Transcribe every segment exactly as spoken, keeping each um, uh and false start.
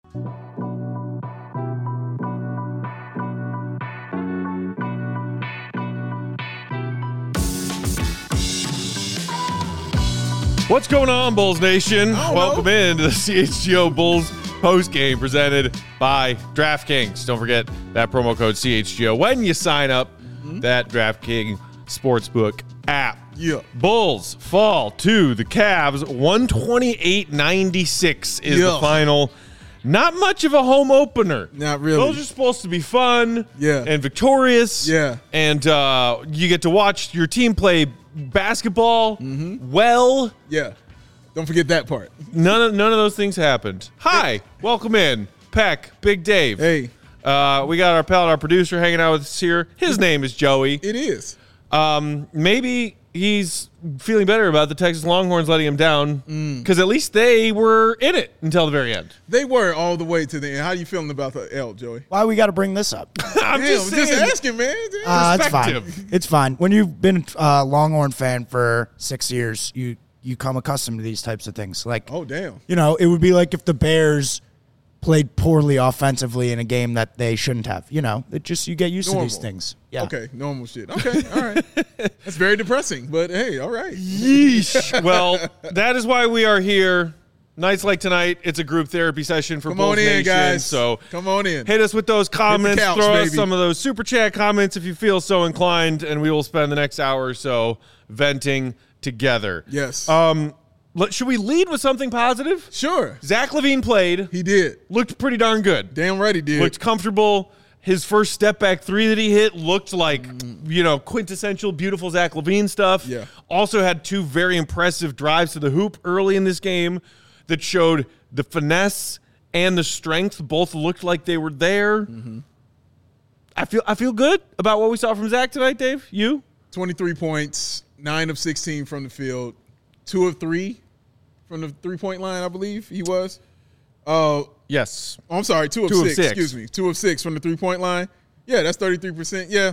What's going on, Bulls Nation? Welcome know. in to the C H G O Bulls postgame presented by DraftKings. Don't forget that promo code C H G O when you sign up mm-hmm. that DraftKings Sportsbook app. Yeah. Bulls fall to the Cavs. one twenty-eight ninety-six is yeah. the final. Not much of a home opener. Not really. Those are supposed to be fun yeah. and victorious. Yeah. And uh, you get to watch your team play basketball mm-hmm. well. Yeah. Don't forget that part. None of none of those things happened. Hi. Welcome in. Peck, Big Dave. Hey. Uh, we got our pal, our producer, hanging out with us here. His name is Joey. It is. Um, maybe he's feeling better about the Texas Longhorns letting him down because mm. at least they were in it until the very end. They were all the way to the end. How are you feeling about the L, Joey? Why we got to bring this up? I'm Damn, just, just saying, asking, man. Uh, it's fine. It's fine. When you've been a Longhorn fan for six years, you you come accustomed to these types of things. Like, oh damn, you know, it would be like if the Bears played poorly offensively in a game that they shouldn't have. You know, it just you get used normal. to these things. Yeah. Okay, normal shit. Okay, all right. That's very depressing, but hey, all right. Yeesh. Well, that is why we are here. Nights like tonight, it's a group therapy session for Come Bulls on in, Nation. guys. So come on in. Hit us with those comments. Couch, throw us baby. some of those super chat comments if you feel so inclined, and we will spend the next hour or so venting together. Yes. Um. Should we lead with something positive? Sure. Zach LaVine played. He did. Looked pretty darn good. Damn right he did. Looked comfortable. His first step back three that he hit looked like, you know, quintessential, beautiful Zach LaVine stuff. Yeah. Also had two very impressive drives to the hoop early in this game that showed the finesse and the strength. Both looked like they were there. Mm-hmm. I feel I feel good about what we saw from Zach tonight, Dave. You? twenty-three points, nine of sixteen from the field, two of three from the three-point line, I believe he was. Uh, yes. Oh, I'm sorry, two, of, two six, of six. Excuse me, two of six from the three-point line. Yeah, that's thirty-three percent. Yeah,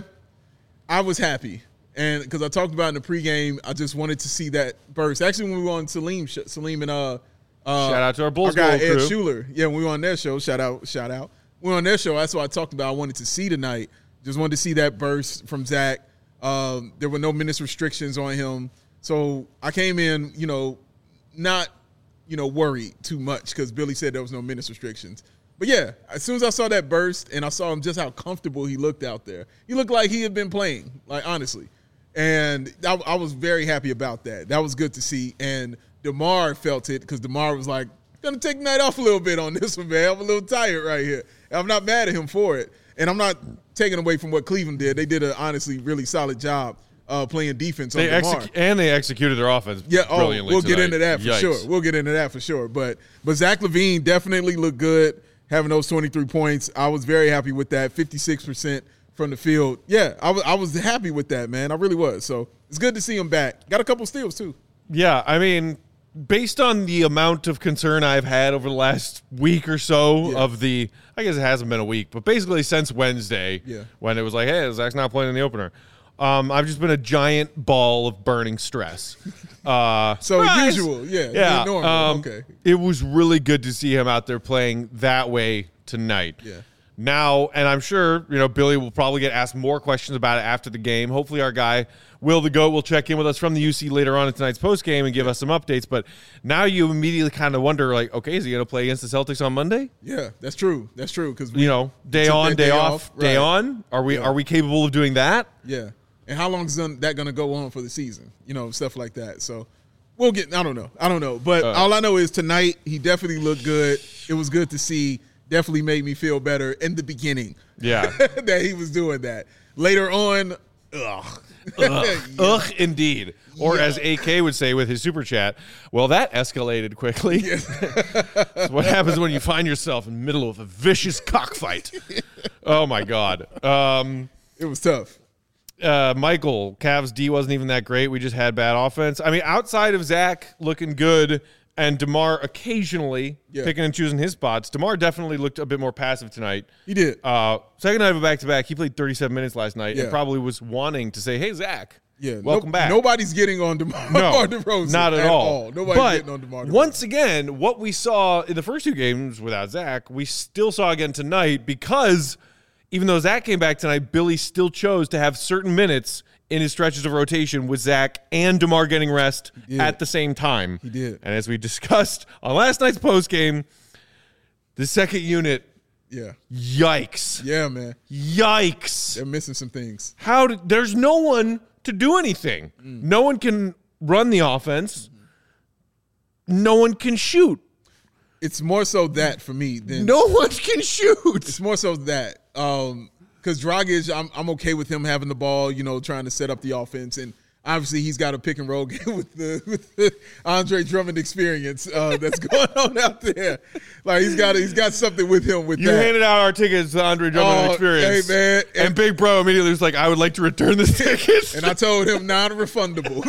I was happy. And because I talked about in the pregame, I just wanted to see that burst. Actually, when we were on Salim, Salim and uh, uh, shout out to our Bulls our guy, crew. Ed Schuler. Yeah, when we were on their show, shout out, shout out. We were on their show. That's what I talked about. I wanted to see tonight. Just wanted to see that burst from Zach. Um, there were no minutes restrictions on him. So I came in, you know, not, you know, worried too much because Billy said there was no minutes restrictions. But, yeah, as soon as I saw that burst and I saw him just how comfortable he looked out there, he looked like he had been playing, like, honestly. And I, I was very happy about that. That was good to see. And DeMar felt it because DeMar was like, going to take the night off a little bit on this one, man. I'm a little tired right here. And I'm not mad at him for it. And I'm not taking away from what Cleveland did. They did a honestly really solid job uh, playing defense on they DeMar. Execu- and they executed their offense yeah, oh, brilliantly we'll tonight. get into that for Yikes. sure. We'll get into that for sure. But but Zach LaVine definitely looked good having those twenty-three points. I was very happy with that, fifty-six percent from the field. Yeah, I was I was happy with that, man. I really was. So it's good to see him back. Got a couple steals too. Yeah, I mean, based on the amount of concern I've had over the last week or so yeah. of the, I guess it hasn't been a week, but basically since Wednesday yeah. when it was like, hey, Zach's not playing in the opener, um, I've just been a giant ball of burning stress. Uh, so surprise. usual, yeah. Yeah. Normal. Um, okay. It was really good to see him out there playing that way tonight. Yeah. Now, and I'm sure, you know, Billy will probably get asked more questions about it after the game. Hopefully our guy, Will the GOAT, will check in with us from the U C later on in tonight's postgame and give us some updates. But now you immediately kind of wonder, like, okay, is he going to play against the Celtics on Monday? Yeah, that's true. That's true. Because you know, day on, day, day off, off right. day on. Are we, yeah. are we capable of doing that? Yeah. And how long is that going to go on for the season? You know, stuff like that. So we'll get, I don't know. I don't know. But uh, all I know is tonight he definitely looked good. It was good to see. Definitely made me feel better in the beginning. Yeah. that he was doing that. Later on, ugh. Ugh, yeah. ugh or yeah. as A K would say with his super chat, well, that escalated quickly. Yeah. That's what happens when you find yourself in the middle of a vicious cockfight. Oh, my God. Um, it was tough. Uh, Michael, Cavs D wasn't even that great. We just had bad offense. I mean, outside of Zach looking good and DeMar occasionally yeah. picking and choosing his spots, DeMar definitely looked a bit more passive tonight. He did. Uh, second night of a back-to-back, he played thirty-seven minutes last night yeah. and probably was wanting to say, hey, Zach, Yeah, welcome no, back. Nobody's getting on DeMar, No, DeRozan. not at, at all. all. Nobody's but getting on DeMar DeRozan. Once again, what we saw in the first two games without Zach, we still saw again tonight because even though Zach came back tonight, Billy still chose to have certain minutes in his stretches of rotation with Zach and DeMar getting rest at the same time. He did. And as we discussed on last night's postgame, the second unit, Yeah. yikes. Yeah, man. Yikes. They're missing some things. How did, there's no one to do anything. Mm. No one can run the offense. Mm-hmm. No one can shoot. It's more so that for me than no one can shoot. It's more so that um because Dragic, I'm I'm okay with him having the ball, you know, trying to set up the offense, and obviously he's got a pick and roll game with the, with the Andre Drummond experience uh, that's going on out there. Like he's got he's got something with him with you that. You handed out our tickets to Andre Drummond oh, experience. Hey man, and, and Big Bro immediately was like, "I would like to return this ticket." And I told him non-refundable.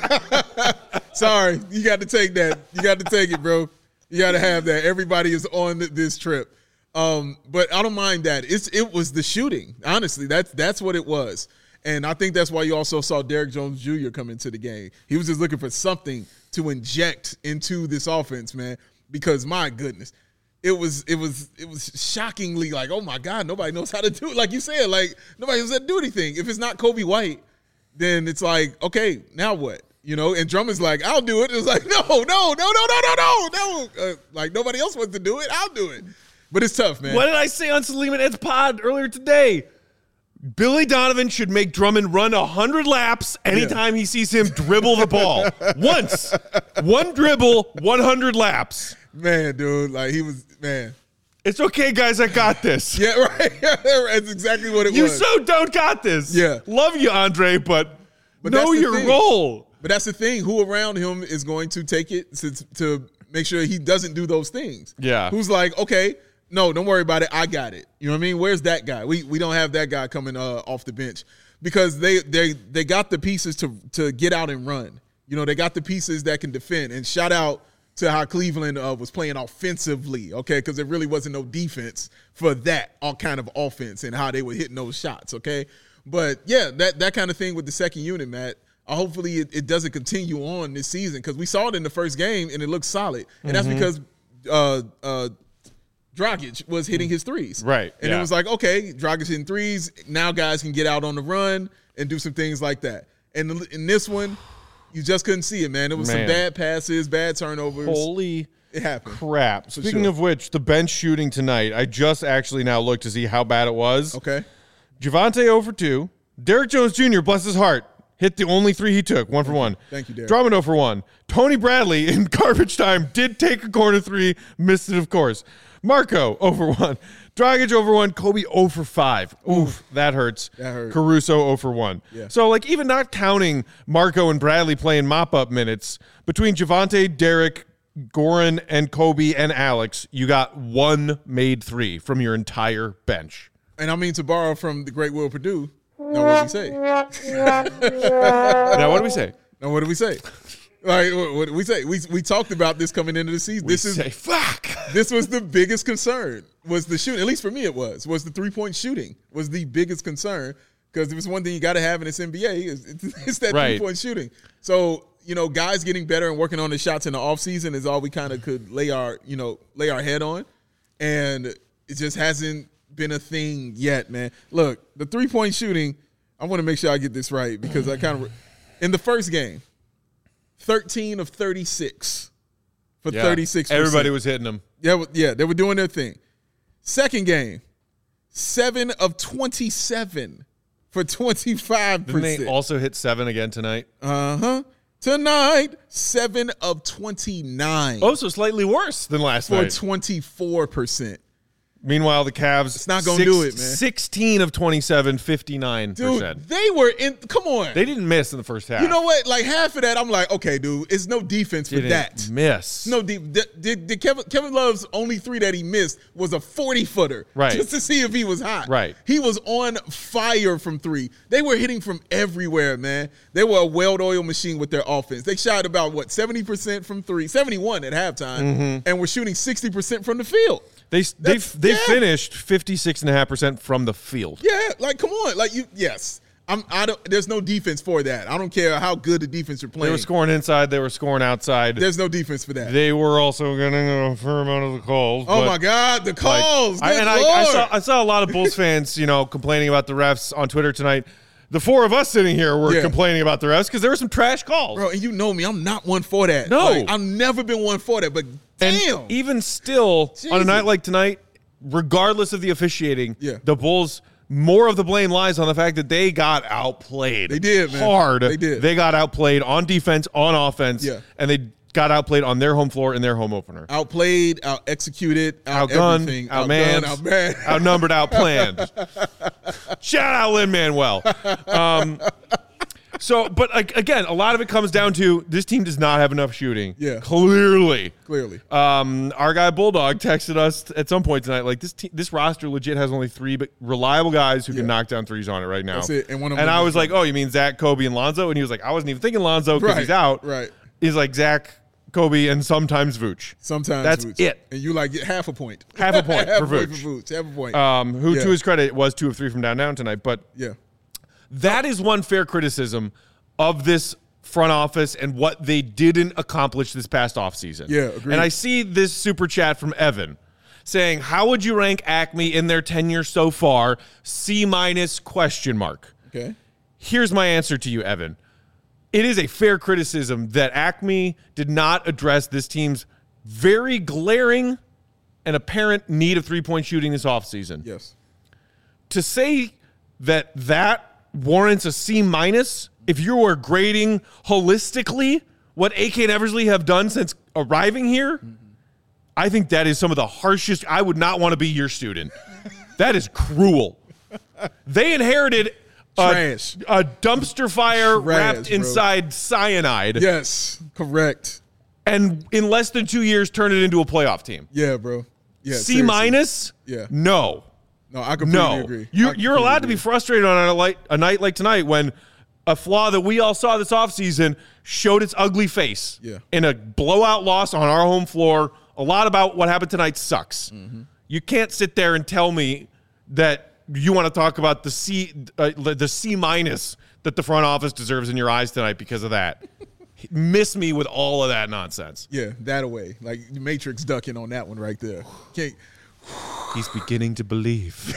Sorry, you got to take that. You got to take it, bro. You got to have that. Everybody is on this trip. Um, but I don't mind that. It's it was the shooting. Honestly, that's that's what it was. And I think that's why you also saw Derrick Jones Junior come into the game. He was just looking for something to inject into this offense, man. Because my goodness, it was it was it was shockingly like, oh my God, nobody knows how to do it. Like you said, like nobody knows how to do anything. If it's not Kobe White, then it's like, okay, now what? You know, and Drummond's like, I'll do it. It's like, no, no, no, no, no, no, no, no. Uh, like nobody else wants to do it. I'll do it. But it's tough, man. What did I say on Salim and Ed's pod earlier today? Billy Donovan should make Drummond run one hundred laps anytime yeah. he sees him dribble the ball. Once. One dribble, one hundred laps. Man, dude, like he was, man. It's okay, guys, I got this. Yeah, right. That's exactly what it you was. You so don't got this. Yeah. Love you, Andre, but, but know your thing. role. But that's the thing. Who around him is going to take it to, to make sure he doesn't do those things? Yeah. Who's like, okay, no, don't worry about it. I got it. You know what I mean? Where's that guy? We we don't have that guy coming uh, off the bench because they they they got the pieces to to get out and run. You know, they got the pieces that can defend. And shout out to how Cleveland uh, was playing offensively, okay? Because there really wasn't no defense for that all kind of offense and how they were hitting those shots, okay? But yeah, that that kind of thing with the second unit, Matt. Uh, hopefully it, it doesn't continue on this season because we saw it in the first game and it looked solid. And mm-hmm. that's because uh, uh, Dragic was hitting his threes. Right. And yeah. it was like, okay, Dragic hitting threes. Now guys can get out on the run and do some things like that. And in this one, you just couldn't see it, man. It was man. some bad passes, bad turnovers. Holy it happened. crap. Speaking sure. of which, the bench shooting tonight, I just actually now looked to see how bad it was. Okay. Javonte zero for two. Derrick Jones Junior, bless his heart, hit the only three he took, one for one. Thank you, Derrick. Drummond zero for one. Tony Bradley in garbage time did take a corner three, missed it, of course. Marco zero for one. Dragic zero for one. Kobe zero for five. Oof, that hurts. That hurt. Caruso zero for one. Yeah. So, like, even not counting Marco and Bradley playing mop-up minutes, between Javonte, Derrick, Goran, and Kobe and Alex, you got one made three from your entire bench. And I mean, to borrow from the great Will Perdue, now what do we say? Now what do we say? Now what do we say? Like what, what do we say? We we talked about this coming into the season. We this say, is fuck. This was the biggest concern. Was the shooting? At least for me, it was. Was the three point shooting was the biggest concern because it was one thing you got to have in this N B A is it's, it's that right. three point shooting. So you know, guys getting better and working on the shots in the offseason is all we kind of could lay our you know lay our head on, and it just hasn't been a thing yet, man. Look, the three point shooting, I want to make sure I get this right because I kind of in the first game, thirteen of thirty-six for yeah. thirty-six percent. Everybody was hitting them. Yeah, yeah, they were doing their thing. Second game, seven of twenty-seven for twenty-five percent. Didn't they also hit seven again tonight? Uh-huh. Tonight, seven of twenty-nine. Oh, so slightly worse than last for night. For twenty-four percent. Meanwhile, the Cavs, it's not going to do it, man. sixteen of twenty-seven, fifty-nine percent. Dude, they were in, come on. They didn't miss in the first half. You know what? Like half of that, I'm like, okay, dude, it's no defense for didn't that. miss. No, did, did, did Kevin, Kevin Love's only three that he missed was a forty-footer. Right. Just to see if he was hot. Right. He was on fire from three. They were hitting from everywhere, man. They were a well-oiled machine with their offense. They shot about, what, seventy percent from three, seventy-one at halftime, mm-hmm. and were shooting sixty percent from the field. They they they yeah. finished fifty-six point five percent from the field. Yeah, like come on, like you. Yes, I'm, I don't. There's no defense for that. I don't care how good the defense you're playing. They were scoring inside. They were scoring outside. There's no defense for that. They were also getting a fair amount of the calls. Oh my God, the calls! Like, I, and I, I saw I saw a lot of Bulls fans, you know, complaining about the refs on Twitter tonight. The four of us sitting here were yeah. complaining about the refs because there were some trash calls. Bro, and you know me, I'm not one for that. No, like, I've never been one for that. But damn, and even still, Jesus. on a night like tonight, regardless of the officiating, yeah. the Bulls. More of the blame lies on the fact that they got outplayed. They did, man. Hard. They did. They got outplayed on defense, on offense, yeah. and they got outplayed on their home floor in their home opener. Outplayed, out executed, out outgunned, everything. outmanned, outmanned, outnumbered, outplanned. Shout out Lin-Manuel. Um, so, but like, again, a lot of it comes down to this team does not have enough shooting. Yeah. Clearly. Clearly. Um, our guy Bulldog texted us at some point tonight, like, this te- this roster legit has only three but reliable guys who yeah. can knock down threes on it right now. That's it. And, one of and them I was like, oh, you mean Zach, Kobe, and Lonzo? And he was like, I wasn't even thinking Lonzo because right. he's out. Right. He's like, Zach, Kobe, and sometimes Vooch. Sometimes That's Vooch. it. And you like get half a point. Half a point half for a point Vooch. for Vooch. Half a point. Um, who, yeah. to his credit, was two of three from downtown tonight. But yeah. that is one fair criticism of this front office and what they didn't accomplish this past offseason. Yeah, agreed. And I see this super chat from Evan saying, how would you rank Acme in their tenure so far? C minus question mark. Okay. Here's my answer to you, Evan. It is a fair criticism that Acme did not address this team's very glaring and apparent need of three-point shooting this offseason. Yes. To say that that warrants a C minus if you are grading holistically what A K and Eversley have done since arriving here, mm-hmm. I think that is some of the harshest. I would not want to be your student. That is cruel. They inherited Trash. A, a dumpster fire Trash, wrapped bro. inside cyanide. Yes, correct. And in less than two years, turned it into a playoff team. Yeah, bro. Yeah. C minus? Yeah. No. No, I completely no. agree. You, I you're allowed agree. to be frustrated on a, light, a night like tonight when a flaw that we all saw this offseason showed its ugly face yeah. in a blowout loss on our home floor. A lot about what happened tonight sucks. Mm-hmm. You can't sit there and tell me that you want to talk about the C, uh, the C minus that the front office deserves in your eyes tonight because of that. Miss me with all of that nonsense. Yeah, that away. Like Matrix ducking on that one right there. Can't. He's beginning to believe.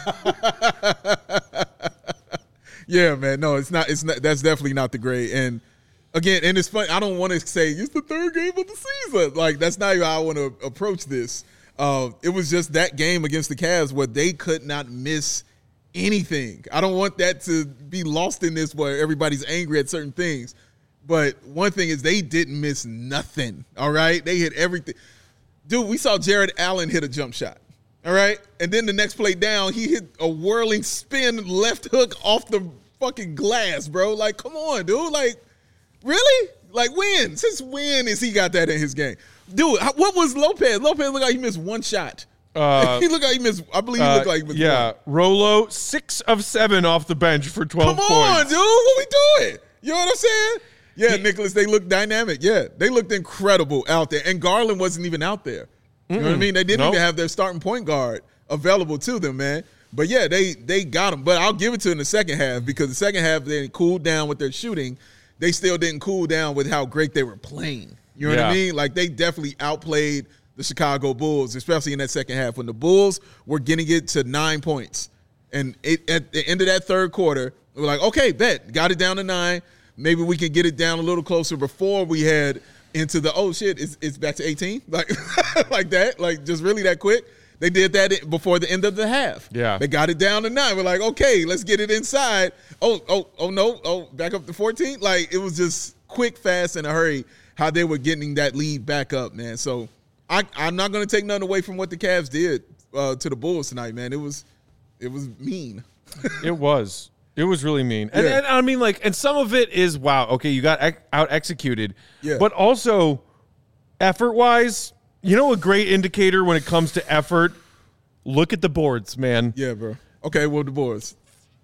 Yeah, man. No, it's not. It's not. That's definitely not the grade. And again, and it's funny. I don't want to say it's the third game of the season. Like that's not how I want to approach this. Uh, it was just that game against the Cavs where they could not miss anything. I don't want that to be lost in this where everybody's angry at certain things. But one thing is they didn't miss nothing. All right, they hit everything. Dude, we saw Jared Allen hit a jump shot. All right. And then the next play down, he hit a whirling spin left hook off the fucking glass, bro. Like, come on, dude. Like, really? Like, when? Since when has he got that in his game? Dude, what was Lopez? Lopez looked like he missed one shot. Uh, he looked like he missed, I believe he looked uh, like he missed yeah, one. Yeah. Rolo, six of seven off the bench for twelve come points. Come on, dude. What we doing? You know what I'm saying? Yeah, he, Nicholas, they looked dynamic. Yeah, they looked incredible out there. And Garland wasn't even out there. You know what I mean? They didn't nope. even have their starting point guard available to them, man. But, yeah, they they got them. But I'll give it to them in the second half because the second half they cooled down with their shooting. They still didn't cool down with how great they were playing. You know yeah. what I mean? Like, they definitely outplayed the Chicago Bulls, especially in that second half when the Bulls were getting it to nine points. And it, at the end of that third quarter, we were like, okay, bet, got it down to nine. Maybe we can get it down a little closer before we head into the, oh, shit, it's, it's back to eighteen? Like, like that? Like, just really that quick? They did that before the end of the half. Yeah. They got it down to nine. We're like, okay, let's get it inside. Oh, oh, oh, no. Oh, back up to fourteen? Like, it was just quick, fast, in a hurry how they were getting that lead back up, man. So I, I'm not going to take nothing away from what the Cavs did uh, to the Bulls tonight, man. It was it was mean. It was. It was really mean. And, Yeah. and I mean, like, and some of it is, wow, okay, you got ex- out executed. Yeah. But also, effort wise, you know, a great indicator when it comes to effort, look at the boards, man. Yeah, bro. Okay, well, the boards.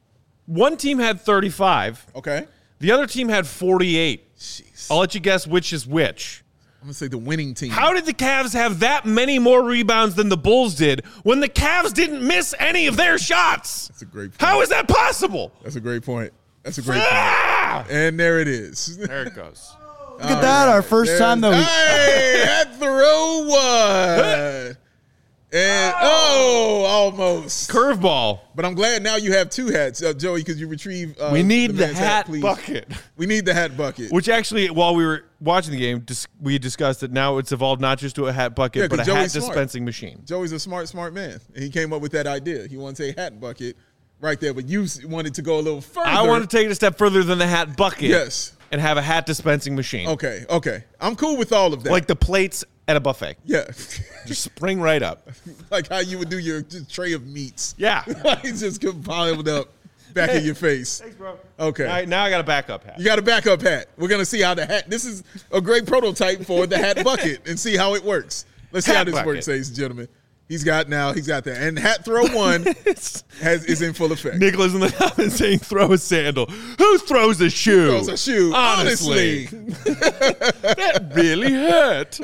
One team had thirty-five. Okay. The other team had forty-eight. Jeez. I'll let you guess which is which. I'm going to say the winning team. How did the Cavs have that many more rebounds than the Bulls did when the Cavs didn't miss any of their shots? That's a great point. How is that possible? That's a great point. That's a great Ah! point. And there it is. There it goes. Look at that, our first There's- time, though. Hey, that throw one. And, oh, almost. Curveball. But I'm glad now you have two hats, uh, Joey, because you retrieve uh, We need the man's hat please. bucket. We need the hat bucket. Which actually, while we were watching the game, dis- we discussed that now it's evolved not just to a hat bucket, Yeah, but a 'cause hat Joey's smart. dispensing machine. Joey's a smart, smart man. And he came up with that idea. He wanted a hat bucket right there, but you s- wanted to go a little further. I want to take it a step further than the hat bucket. Yes. And have a hat dispensing machine. Okay, okay. I'm cool with all of that. Like the plates at a buffet. yeah. Just spring right up. Like how you would do your just tray of meats. Yeah. Like it's just piled up back in your face. Thanks, bro. Okay. All right, now I got a backup hat. You got a backup hat. We're going to see how the hat, this is a great prototype for the hat bucket and see how it works. Let's see Hat how this bucket. works, ladies and gentlemen. He's got now, he's got that. And hat throw one has is in full effect. Nicholas in the comments saying, throw a sandal. Who throws a shoe? Throws a shoe. Honestly. Honestly. That really hurt.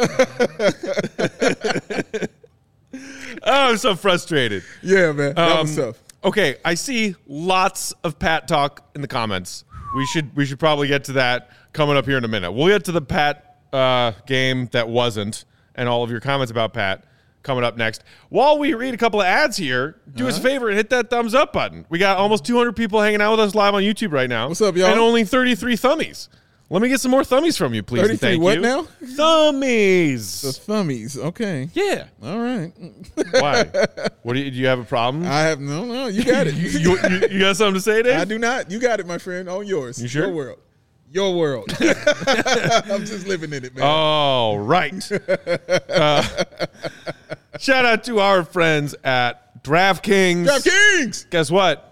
Oh, I'm so frustrated. Yeah, man. That was Um, tough. Okay, I see lots of Pat talk in the comments. We should we should probably get to that coming up here in a minute. We'll get to the Pat uh, game that wasn't and all of your comments about Pat coming up next. While we read a couple of ads here, do Uh-huh. us a favor and hit that thumbs up button. We got almost two hundred people hanging out with us live on YouTube right now. What's up, y'all? And only thirty-three thummies. Let me get some more thummies from you, please. and thirty-three thank what you. now? Thummies. The thummies. Okay. Yeah. All right. Why? What do you, do you have a problem? I have no, no. You got it. you, you, you, you got something to say, Dave? I do not. You got it, my friend. On yours. You sure? Your world. Your world. I'm just living in it, man. All right. Uh, shout out to our friends at DraftKings. DraftKings. Guess what?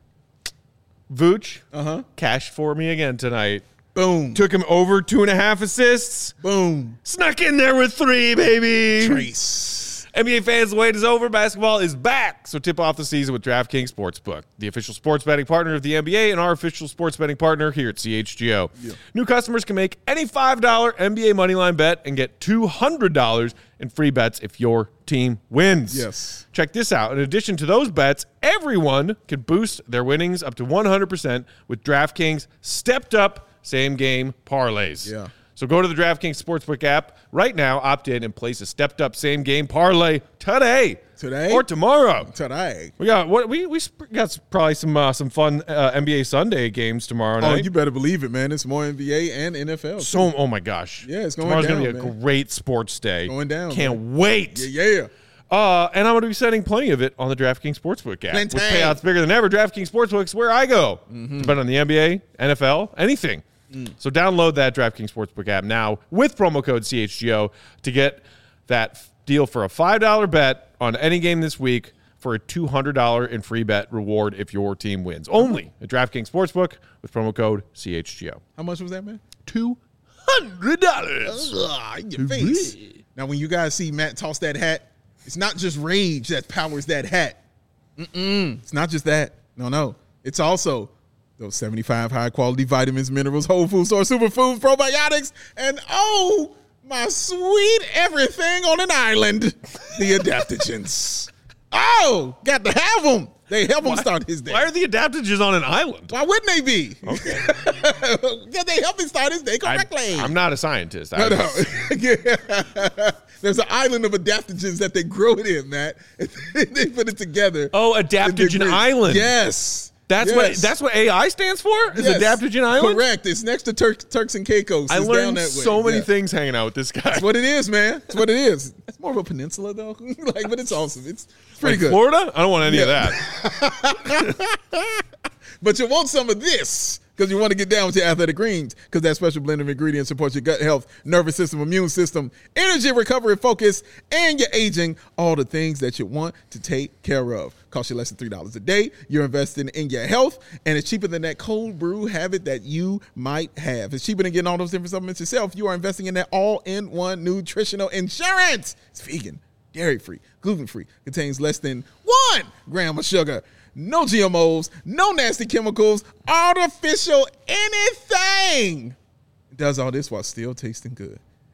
Vooch Uh-huh. cashed for me again tonight. Boom. Took him over two and a half assists. Boom. Snuck in there with three, baby. Trace. N B A fans, the wait is over. Basketball is back. So tip off the season with DraftKings Sportsbook, the official sports betting partner of the N B A and our official sports betting partner here at C H G O. Yeah. New customers can make any five dollar N B A moneyline bet and get two hundred dollars in free bets if your team wins. Yes. Check this out. In addition to those bets, everyone can boost their winnings up to one hundred percent with DraftKings stepped up same game parlays. Yeah. So go to the DraftKings Sportsbook app right now, opt in, and place a stepped-up same-game parlay today, Today? or tomorrow. Today. We got what we we sp- got probably some uh, some fun uh, N B A Sunday games tomorrow Oh, night. you better believe it, man. It's more N B A and N F L. too. so oh my gosh, Yeah, it's going tomorrow's down, gonna be a man. great sports day. Going down, Can't wait. Yeah, yeah. Uh, and I'm going to be sending plenty of it on the DraftKings Sportsbook app. Plenty. With payouts bigger than ever, DraftKings Sportsbook is where I go. Mm-hmm. To bet on the N B A, N F L, anything. Mm. So download that DraftKings Sportsbook app now with promo code C H G O to get that f- deal for a five dollar bet on any game this week for a two hundred dollars in free bet reward if your team wins. Only at DraftKings Sportsbook with promo code C H G O. How much was that, man? two hundred dollars. Ugh, in your face. Now, when you guys see Matt toss that hat, it's not just rage that powers that hat. Mm-mm. It's not just that. No, no. It's also those seventy-five high-quality vitamins, minerals, whole food source, superfoods, probiotics, and oh, my sweet everything on an island, the adaptogens. Oh, got to have them. They help him start his day. Why are the adaptogens on an island? Why wouldn't they be? Okay. Yeah, they help him start his day correctly. I'm not a scientist. I No, no. was- Yeah. There's an island of adaptogens that they grow it in, Matt. They put it together. Oh, in Adaptogen degree. Island. Yes. That's Yes. what that's what A I stands for? Is Yes. Adaptogen Island? Correct. It's next to Turk, Turks and Caicos. I It's down learned that way. so many Yeah. things hanging out with this guy. That's what it is, man. That's what it is. It's more of a peninsula, though. Like, but it's awesome. It's pretty Like good. Florida? I don't want any Yeah. of that. But you want some of this because you want to get down with your athletic greens because that special blend of ingredients supports your gut health, nervous system, immune system, energy, recovery, focus, and your aging, all the things that you want to take care of. Cost you less than three dollars a day. You're investing in your health, and it's cheaper than that cold brew habit that you might have. It's cheaper than getting all those different supplements yourself. You are investing in that all-in-one nutritional insurance. It's vegan, dairy-free, gluten-free, contains less than one gram of sugar. No G M Os, no nasty chemicals, artificial anything. It does all this while still tasting good.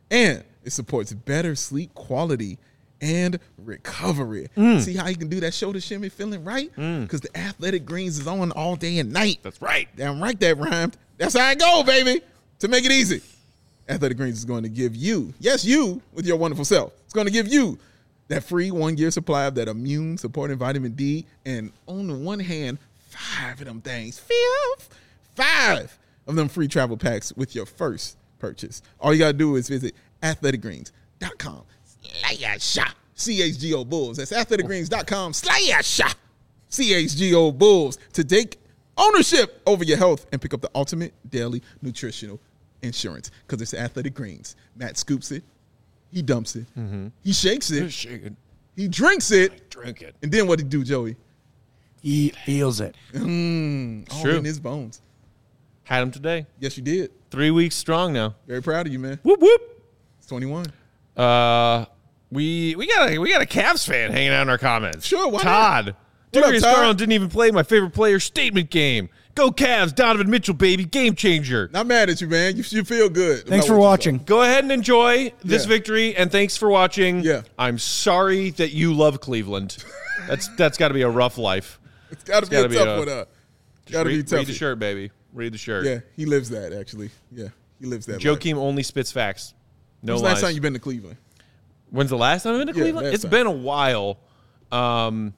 And it supports better sleep quality and recovery. Mm. See how you can do that shoulder shimmy feeling right? Because mm. the Athletic Greens is on all day and night. That's right. Damn right that rhymed. That's how I go, baby. To make it easy, Athletic Greens is going to give you, yes, you, with your wonderful self, it's going to give you that free one-year supply of that immune-supporting vitamin D, and on the one hand, five of them things, five, five of them free travel packs with your first purchase. All you got to do is visit athletic greens dot com slash C H G O Bulls. That's athletic greens dot com slash C H G O Bulls to take ownership over your health and pick up the ultimate daily nutritional insurance, because it's Athletic Greens. Matt scoops it. He dumps it. Mm-hmm. He shakes it. Shake it. He drinks it. I drink it. And then what did he do, Joey? He feels it. Mm, all true. in his bones. Had him today. Yes, you did. Three weeks strong now. Very proud of you, man. Whoop whoop. It's twenty-one. Uh, we we got a we got a Cavs fan hanging out in our comments. Sure, why Todd. not? Darius Todd? Garland didn't even play my favorite player statement game. Go Cavs, Donovan Mitchell, baby, game changer. Not mad at you, man. You should feel good. Thanks about for what you watching. Go ahead and enjoy this Yeah. victory, and thanks for watching. Yeah. I'm sorry that you love Cleveland. That's that's got to be a rough life. It's got to be gotta a be tough a- one. Uh, got to read, be tough. read the shirt, baby. Read the shirt. Yeah, he lives that, actually. Yeah, he lives that. life. Joakim only spits facts. No When's the lies. last time you been to Cleveland? When's the last time I've been to Yeah, Cleveland? last It's time. been a while. Um,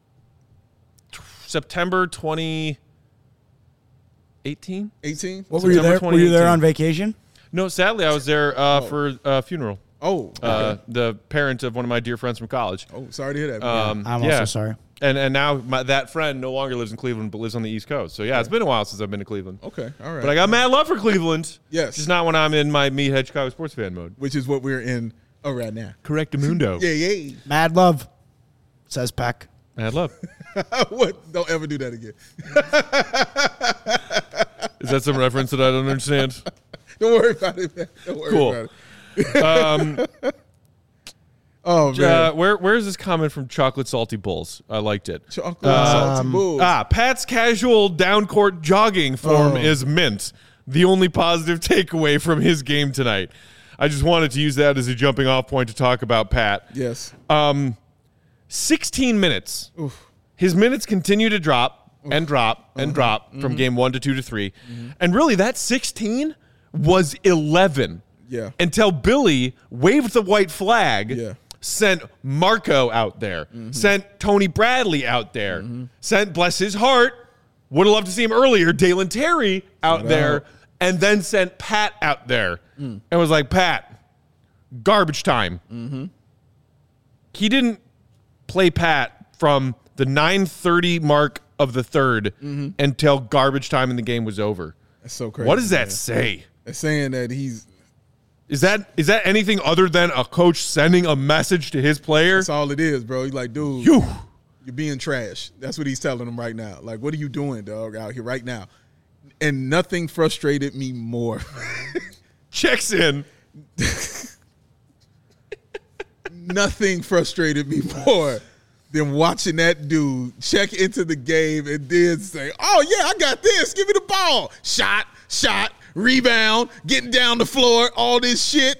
t- September twenty eighteen? eighteen? What were you September there? Were you there twenty eighteen. on vacation? No, sadly, I was there uh, for a funeral. Oh, okay. Uh, the parent of one of my dear friends from college. oh, sorry to hear that. Um, I'm yeah. also sorry. And and now my, that friend no longer lives in Cleveland, but lives on the East Coast. So yeah, it's been a while since I've been to Cleveland. okay, all right. But I got mad love for Cleveland. Yes. Just not when I'm in my meathead Chicago sports fan mode. Which is what we're in oh, right now. Correctamundo. Yeah, yeah. Mad love, says Peck. Mad love. What? Don't ever do that again. Is that some reference that I don't understand? Don't worry about it, man. Don't worry Cool. about it. Um, Oh, man. uh, where where is this comment from Chocolate Salty Bulls? I liked it. Chocolate salty bulls. Ah, Pat's casual down court jogging form Oh. is mint. The only positive takeaway from his game tonight. I just wanted to use that as a jumping off point to talk about Pat. Yes. Um, sixteen minutes. His minutes continue to drop and drop and drop from Mm-hmm. game one to two to three. And really, that sixteen was eleven. Yeah. Until Billy waved the white flag, Yeah. sent Marco out there, Mm-hmm. sent Tony Bradley out there, sent, bless his heart, would have loved to see him earlier, Dalen Terry out Shout there, out. and then sent Pat out there Mm. and was like, Pat, garbage time. Mm-hmm. He didn't play Pat from the nine thirty mark of the third Mm-hmm. until garbage time in the game was over. That's so crazy. What does that man. say? It's saying that he's Is that is that anything other than a coach sending a message to his player? that's all it is, bro. He's like, dude, Phew. you're being trash. That's what he's telling him right now. Like, what are you doing, dog, out here right now? And nothing frustrated me more. Checks in. Nothing frustrated me more than watching that dude check into the game and then say, oh, yeah, I got this. Give me the ball. Shot, shot, rebound, getting down the floor, all this shit.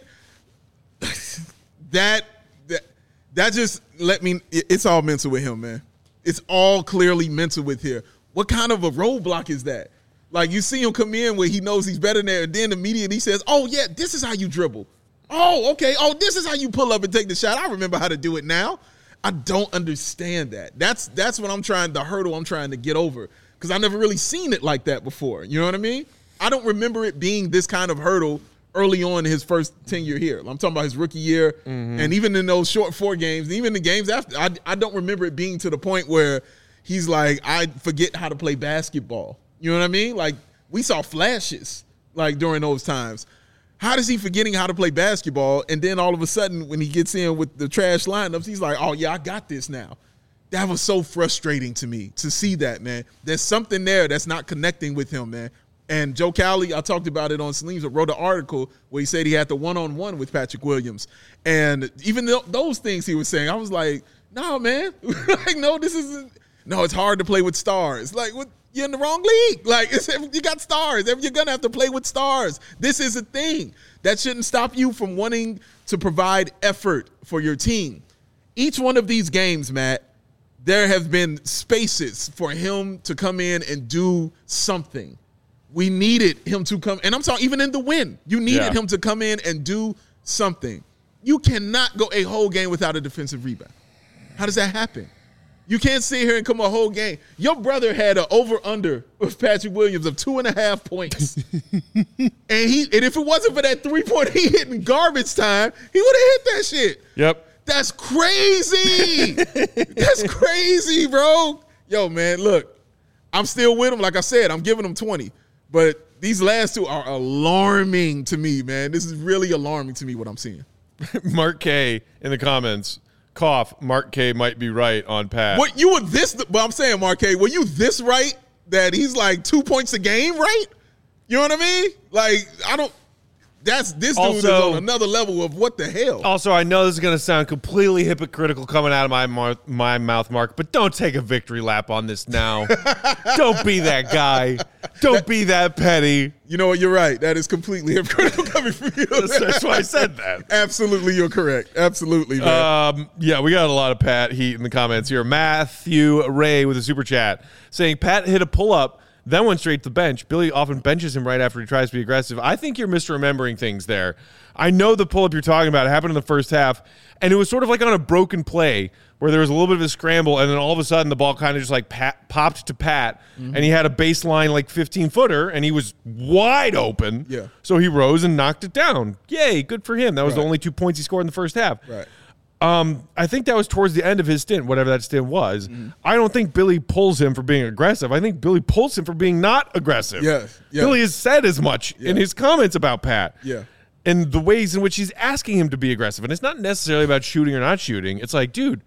that, that, that just let me, it- it's all mental with him, man. It's all clearly mental with here. What kind of a roadblock is that? Like, you see him come in where he knows he's better than there, and then immediately he says, oh, yeah, this is how you dribble. Oh, okay. Oh, this is how you pull up and take the shot. I remember how to do it now. I don't understand that. That's that's what I'm trying, the hurdle I'm trying to get over, because I've never really seen it like that before. You know what I mean? I don't remember it being this kind of hurdle early on in his first tenure here. I'm talking about his rookie year, Mm-hmm. and even in those short four games, even the games after, I, I don't remember it being to the point where he's like, I forget how to play basketball. You know what I mean? Like, we saw flashes like during those times. How does he forgetting how to play basketball, and then all of a sudden when he gets in with the trash lineups, he's like, oh, yeah, I got this now. That was so frustrating to me to see that, man. There's something there that's not connecting with him, man. And Joe Cowley, I talked about it on Salim's, wrote an article where he said he had the one-on-one with Patrick Williams. And even th- those things he was saying, I was like, no, man. like, no, this isn't. No, it's hard to play with stars. Like, what? you're in the wrong league. Like, it's, you got stars. You're going to have to play with stars. This is a thing. That shouldn't stop you from wanting to provide effort for your team. Each one of these games, Matt, there have been spaces for him to come in and do something. We needed him to come, and I'm talking even in the win, you needed yeah. him to come in and do something. You cannot go a whole game without a defensive rebound. How does that happen? You can't sit here and come a whole game. Your brother had an over-under with Patrick Williams of two and a half points. and he, and if it wasn't for that three-point he hit in garbage time, he would have hit that shit. Yep. That's crazy. That's crazy, bro. Yo, man, look, I'm still with him. Like I said, I'm giving him twenty. But these last two are alarming to me, man. This is really alarming to me what I'm seeing. Mark K in the comments. Cough. Mark K might be right on Pat. What you were this? But I'm saying, Mark K, were you this right that he's like two points a game, right? You know what I mean? Like I don't. That's this dude also, is on another level of what the hell. Also, I know this is going to sound completely hypocritical coming out of my mar- my mouth, Mark, but don't take a victory lap on this now. Don't be that guy. Don't that, be that petty. You know what? You're right. That is completely hypocritical coming from you. That's, that's why I said that. Absolutely, you're correct. Absolutely, man. Um, yeah, we got a lot of Pat heat in the comments here. Matthew Ray with a super chat saying Pat hit a pull-up, then went straight to the bench. Billy often benches him right after he tries to be aggressive. I think you're misremembering things there. I know the pull-up you're talking about happened in the first half, and it was sort of like on a broken play where there was a little bit of a scramble, and then all of a sudden the ball kind of just like pat, popped to Pat, mm-hmm. and he had a baseline like fifteen-footer, and he was wide open. Yeah. So he rose and knocked it down. Yay, good for him. That was right. the only two points he scored in the first half. Right. Um, I think that was towards the end of his stint, whatever that stint was. Mm. I don't think Billy pulls him for being aggressive. I think Billy pulls him for being not aggressive. Yes, yes. Billy has said as much yeah. in his comments about Pat. Yeah. And the ways in which he's asking him to be aggressive. And it's not necessarily about shooting or not shooting. It's like, dude,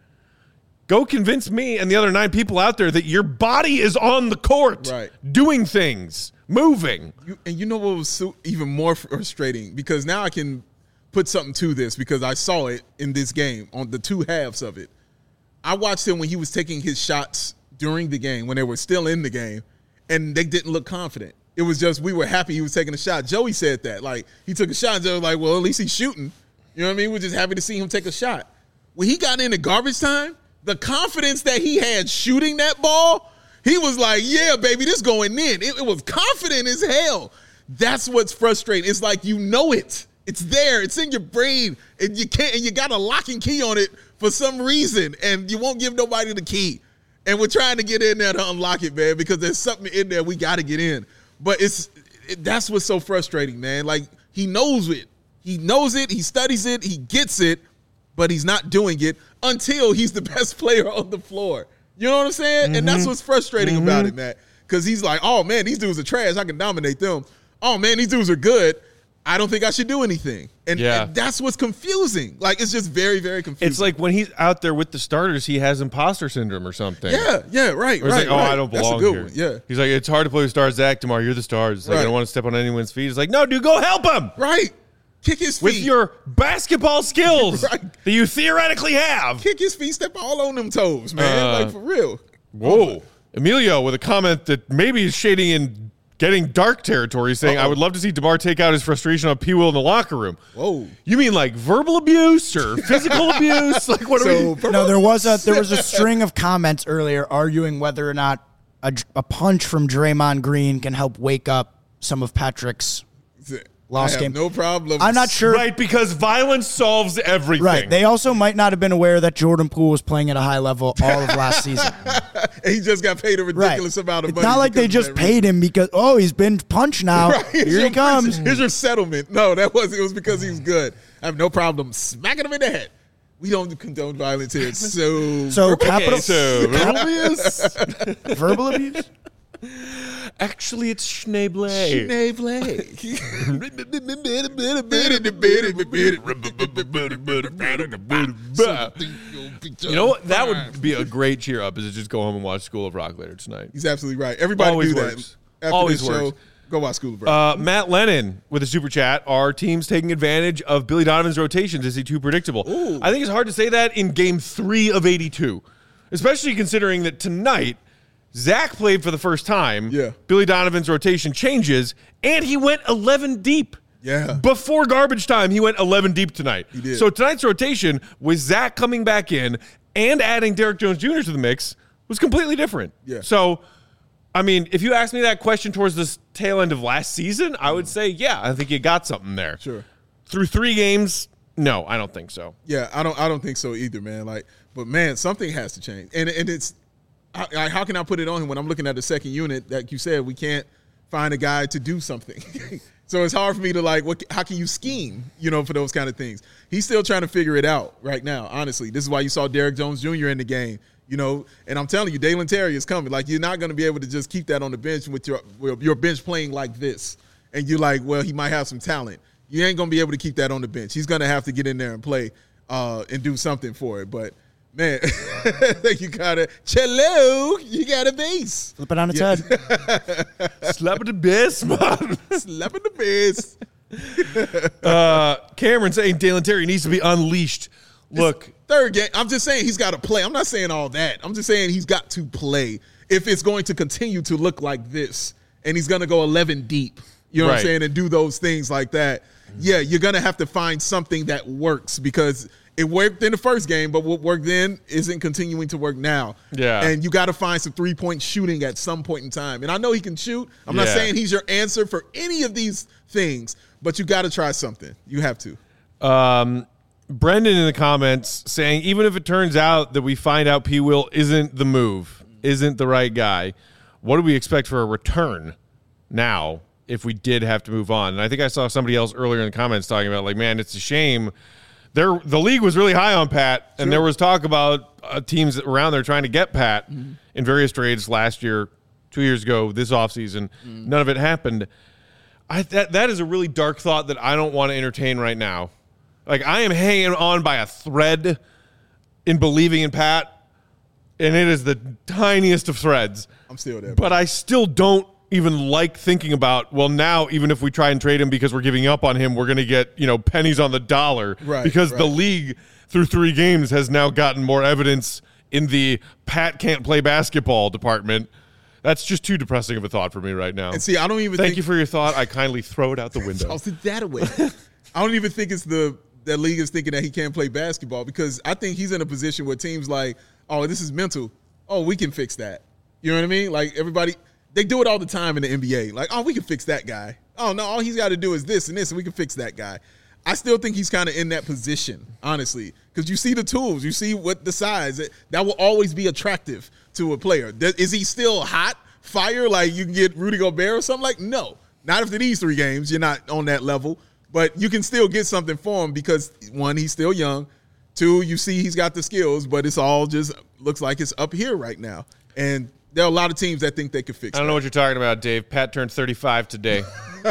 go convince me and the other nine people out there that your body is on the court, right. doing things, moving. You, and you know what was so, even more frustrating? Because now I can put something to this because I saw it in this game on the two halves of it. I watched him when he was taking his shots during the game, when they were still in the game, and they didn't look confident. It was just we were happy he was taking a shot. Joey said that. Like, he took a shot, and Joey was like, well, at least he's shooting. You know what I mean? We're just happy to see him take a shot. When he got into garbage time, the confidence that he had shooting that ball, he was like, yeah, baby, this going in. It, it was confident as hell. That's what's frustrating. It's like you know it. It's there. It's in your brain, and you can't. And you got a lock and key on it for some reason, and you won't give nobody the key. And we're trying to get in there to unlock it, man, because there's something in there we got to get in. But it's it, that's what's so frustrating, man. Like, he knows it. He knows it. He studies it. He gets it, but he's not doing it until he's the best player on the floor. You know what I'm saying? Mm-hmm. And that's what's frustrating mm-hmm. about it, man. Because he's like, oh man, these dudes are trash. I can dominate them. Oh man, these dudes are good. I don't think I should do anything. And, yeah. and that's what's confusing. Like, it's just very, very confusing. It's like when he's out there with the starters, he has imposter syndrome or something. Yeah, yeah, right, or he's right. like, oh, right. I don't belong that's a good here. One. Yeah. He's like, it's hard to play with stars. Zach, tomorrow, you're the stars. It's like, right. I don't want to step on anyone's feet. It's like, no, dude, go help him. Right. Kick his feet. With your basketball skills right. that you theoretically have. Kick his feet, step all on them toes, man. Uh, like, for real. Whoa. Oh. Emilio with a comment that maybe is shading in getting dark territory, saying, Uh-oh. I would love to see DeMar take out his frustration on P. Will in the locker room. Whoa. You mean like verbal abuse or physical abuse? Like, what so, are we? No, there was a there was a string of comments earlier arguing whether or not a, a punch from Draymond Green can help wake up some of Patrick's lost I have game. No problem. I'm not sure. Right, because violence solves everything. Right. They also might not have been aware that Jordan Poole was playing at a high level all of last season. And he just got paid a ridiculous right. amount of it's money. It's not like they just paid reason. him because, oh, he's been punched now. Right. Here he comes. Here's your settlement. No, that was it was because he was good. I have no problem smacking him in the head. We don't condone violence here. So, so capital okay, so verbal abuse. Verbal abuse. Actually, it's Schneeble. Schneeble. You know what? That would be a great cheer up. Is to just go home and watch School of Rock later tonight. He's absolutely right. Everybody Always do works. that. After Always this works. show, go watch School of Rock. Uh, Matt Lennon with a super chat. Are teams taking advantage of Billy Donovan's rotations? Is he too predictable? Ooh. I think it's hard to say that in game three of eighty-two, especially considering that tonight Zach played for the first time. Yeah. Billy Donovan's rotation changes, and he went eleven deep. Yeah. Before garbage time, he went eleven deep tonight. He did. So tonight's rotation with Zach coming back in and adding Derek Jones Junior to the mix was completely different. Yeah. So, I mean, if you asked me that question towards the tail end of last season, I would say, yeah, I think you got something there. Sure. Through three games, no, I don't think so. Yeah, I don't. I don't think so either, man. Like, but man, something has to change, and and it's I, I, how can I put it on him when I'm looking at the second unit? Like you said, we can't find a guy to do something. So it's hard for me to like, what? How can you scheme, you know, for those kind of things? He's still trying to figure it out right now, honestly. This is why you saw Derek Jones Junior in the game, you know, and I'm telling you, Dalen Terry is coming. Like, you're not going to be able to just keep that on the bench with your, with your bench playing like this. And you're like, well, he might have some talent. You ain't going to be able to keep that on the bench. He's going to have to get in there and play uh, and do something for it. But, man, you got to, cello, you got a base. Flip it on its Yeah. head. Slap at the best, man. Slapping the base. uh, Cameron saying Dalen Terry needs to be unleashed. Look, Third game, I'm just saying he's got to play. I'm not saying all that. I'm just saying he's got to play if it's going to continue to look like this, and he's going to go eleven deep. You know what I'm Right. saying? And do those things like that. Yeah, you're going to have to find something that works because it worked in the first game, but what worked then isn't continuing to work now. Yeah. And you got to find some three-point shooting at some point in time. And I know he can shoot. I'm not Yeah. saying he's your answer for any of these things, but you got to try something. You have to. Um, Brendan in the comments saying, even if it turns out that we find out P. Will isn't the move, isn't the right guy, what do we expect for a return now if we did have to move on? And I think I saw somebody else earlier in the comments talking about, like, man, it's a shame. There, the league was really high on Pat, and Sure. there was talk about uh, teams around there trying to get Pat Mm-hmm. in various trades last year, two years ago, this offseason. Mm. None of it happened. I, that that is a really dark thought that I don't want to entertain right now. Like, I am hanging on by a thread in believing in Pat, and it is the tiniest of threads. I'm still there. But I still don't even like thinking about, well, now even if we try and trade him because we're giving up on him, we're going to get, you know, pennies on the dollar. Right, because the right. league through three games has now gotten more evidence in the Pat can't play basketball department. That's just too depressing of a thought for me right now. And see, I don't even Thank think you for your thought. I kindly throw it out the window. toss it that away. I don't even think it's the that league is thinking that he can't play basketball because I think he's in a position where teams like, oh, this is mental. Oh, we can fix that. You know what I mean? Like everybody, they do it all the time in the N B A. Like, oh, we can fix that guy. Oh no, all he's got to do is this and this, and we can fix that guy. I still think he's kind of in that position, honestly, because you see the tools, you see what the size that, that will always be attractive to a player. Th- Is he still hot, fire? Like you can get Rudy Gobert or something? Like no, not after these three games. You're not on that level. But you can still get something for him because, one, he's still young. Two, you see he's got the skills, but it's all just looks like it's up here right now. And there are a lot of teams that think they could fix it. I don't know what you're talking about, Dave. Pat turned thirty-five today.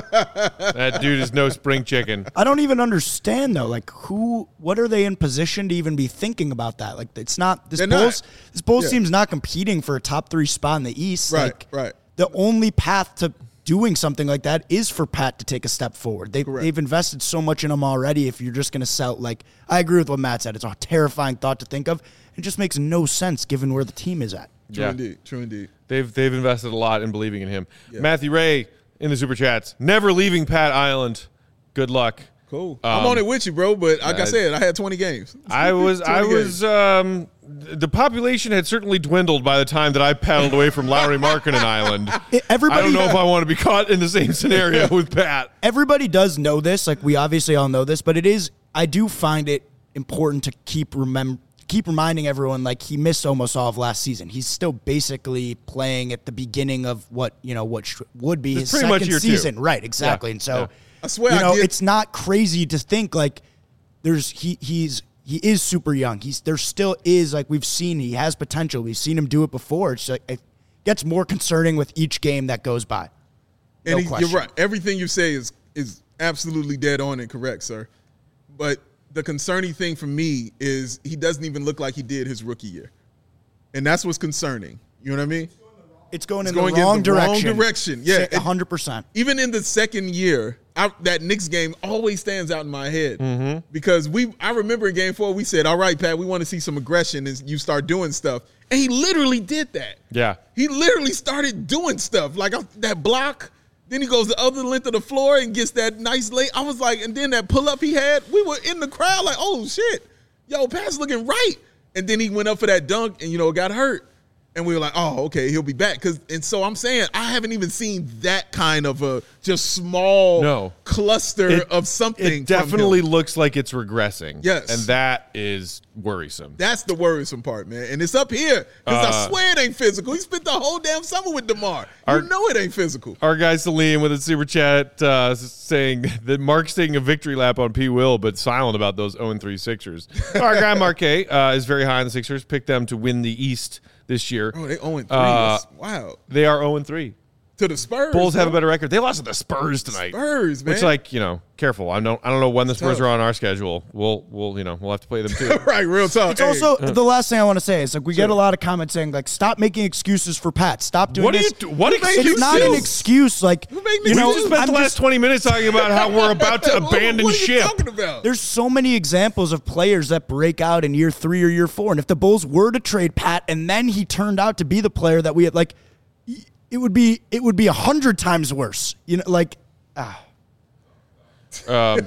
That dude is no spring chicken. I don't even understand though. Like, who? What are they in position to even be thinking about that? Like, it's not this They're Bulls. not. This Bulls Yeah. team's not competing for a top three spot in the East. Right, Like, right. The only path to doing something like that is for Pat to take a step forward. They, Correct. they've invested so much in him already. If you're just going to sell, like, I agree with what Matt said. It's a terrifying thought to think of. It just makes no sense given where the team is at. True Yeah. indeed. True indeed. They've they've invested a lot in believing in him. Yeah. Matthew Ray in the super chats. Never leaving Pat Island. Good luck. Cool. Um, I'm on it with you, bro. But like I I- said, I had twenty games. I was I twenty was um the population had certainly dwindled by the time that I paddled away from Lowry Markkinen Island. It- everybody- I don't know if I want to be caught in the same scenario with Pat. Everybody does know this. Like, we obviously all know this, but it is, I do find it important to keep remember. Keep reminding everyone, like, he missed almost all of last season. He's still basically playing at the beginning of what, you know, what sh- would be It's his pretty much second year two. season. Right, exactly. Yeah, And so, yeah. I swear you I know, get- it's not crazy to think, like, there's, he he's, he is super young. He's, there still is, like, we've seen, he has potential. We've seen him do it before. It's like, it gets more concerning with each game that goes by. No And he, question. you're right. Everything you say is is absolutely dead on and correct, sir. But the concerning thing for me is he doesn't even look like he did his rookie year. And that's what's concerning. You know what I mean? It's going It's in going the in wrong the wrong direction. direction. Yeah, one hundred percent. Even in the second year, I, that Knicks game always stands out in my head mm-hmm. because we. I remember in Game Four we said, "All right, Pat, we want to see some aggression," and you start doing stuff, and he literally did that. Yeah, he literally started doing stuff like that block. Then he goes the other length of the floor and gets that nice lay. I was like, and then that pull up he had, we were in the crowd like, oh shit, yo, Pat's looking right. And then he went up for that dunk and you know got hurt. And we were like, oh, okay, he'll be back. Cause and so I'm saying I haven't even seen that kind of a just small no. cluster it, of something. It definitely from him. looks like it's regressing. Yes. And that is worrisome. That's the worrisome part, man. And it's up here. Because uh, I swear it ain't physical. He spent the whole damn summer with DeMar. Our, you know it ain't physical. Our guy Salim with a super chat uh, saying that Mark's taking a victory lap on P. Will, but silent about those oh and three Sixers. Our guy Marquet uh, is very high on the Sixers. Picked them to win the East this year. Oh, they oh and three. Uh, wow. They are oh and three. To the Spurs. Bulls bro. have a better record. They lost to the Spurs tonight. Spurs, man. Which, like, you know, careful. I don't I don't know when the Spurs tough. are on our schedule. We'll we'll you know, we'll have to play them too. Right, real talk. It's hey. also the last thing I want to say is like we Sure. get a lot of comments saying like stop making excuses for Pat. Stop doing What do this. you do? What It's excuses? not an excuse. Like Who made you know, excuses? We just spent I'm the last just- twenty minutes talking about how we're about to What- abandon what are you ship. talking about? There's so many examples of players that break out in year three or year four, and if the Bulls were to trade Pat and then he turned out to be the player that we had, like, it would be it would be a hundred times worse. You know, like, ah. Um,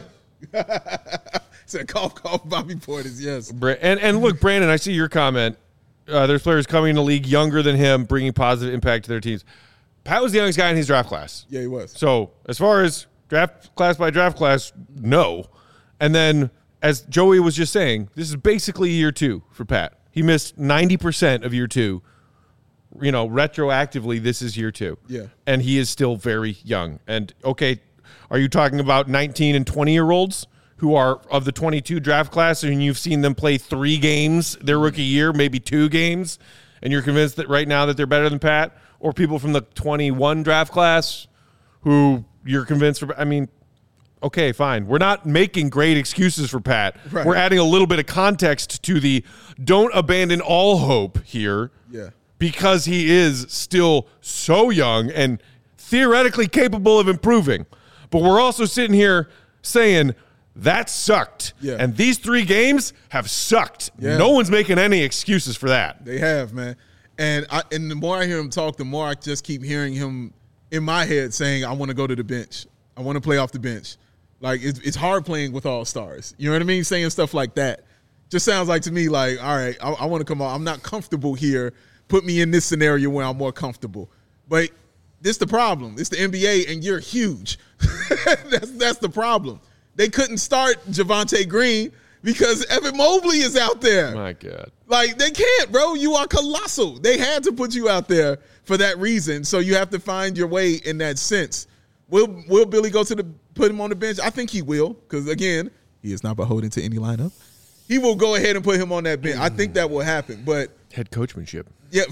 Said cough, cough, Bobby Portis, yes. and and look, Brandon, I see your comment. Uh, there's players coming in the league younger than him, bringing positive impact to their teams. Pat was the youngest guy in his draft class. Yeah, he was. So as far as draft class by draft class, no. And then, as Joey was just saying, this is basically year two for Pat. He missed ninety percent of year two. You know, retroactively, this is year two. Yeah. And he is still very young. And, okay, are you talking about nineteen and twenty-year-olds who are of the twenty-two draft class and you've seen them play three games their rookie year, maybe two games, and you're convinced that right now that they're better than Pat? Or people from the twenty-one draft class who you're convinced – I mean, okay, fine. We're not making great excuses for Pat. Right. We're adding a little bit of context to the don't abandon all hope here. Yeah. Because he is still so young and theoretically capable of improving. But we're also sitting here saying that sucked. Yeah. And these three games have sucked. Yeah. No one's making any excuses for that. They have, man. And I, and the more I hear him talk, the more I just keep hearing him in my head saying, I want to go to the bench. I want to play off the bench. Like, it's, it's hard playing with all stars. You know what I mean? Saying stuff like that. Just sounds like to me like, all right, I, I want to come on. I'm not comfortable here. Put me in this scenario where I'm more comfortable. But this the problem. It's the N B A, and you're huge. that's that's the problem. They couldn't start Javonte Green because Evan Mobley is out there. My God. Like, they can't, bro. You are colossal. They had to put you out there for that reason. So you have to find your way in that sense. Will Will Billy go to the put him on the bench? I think he will, because again, he is not beholden to any lineup. He will go ahead and put him on that bench. I think that will happen. But Head coachmanship. yeah.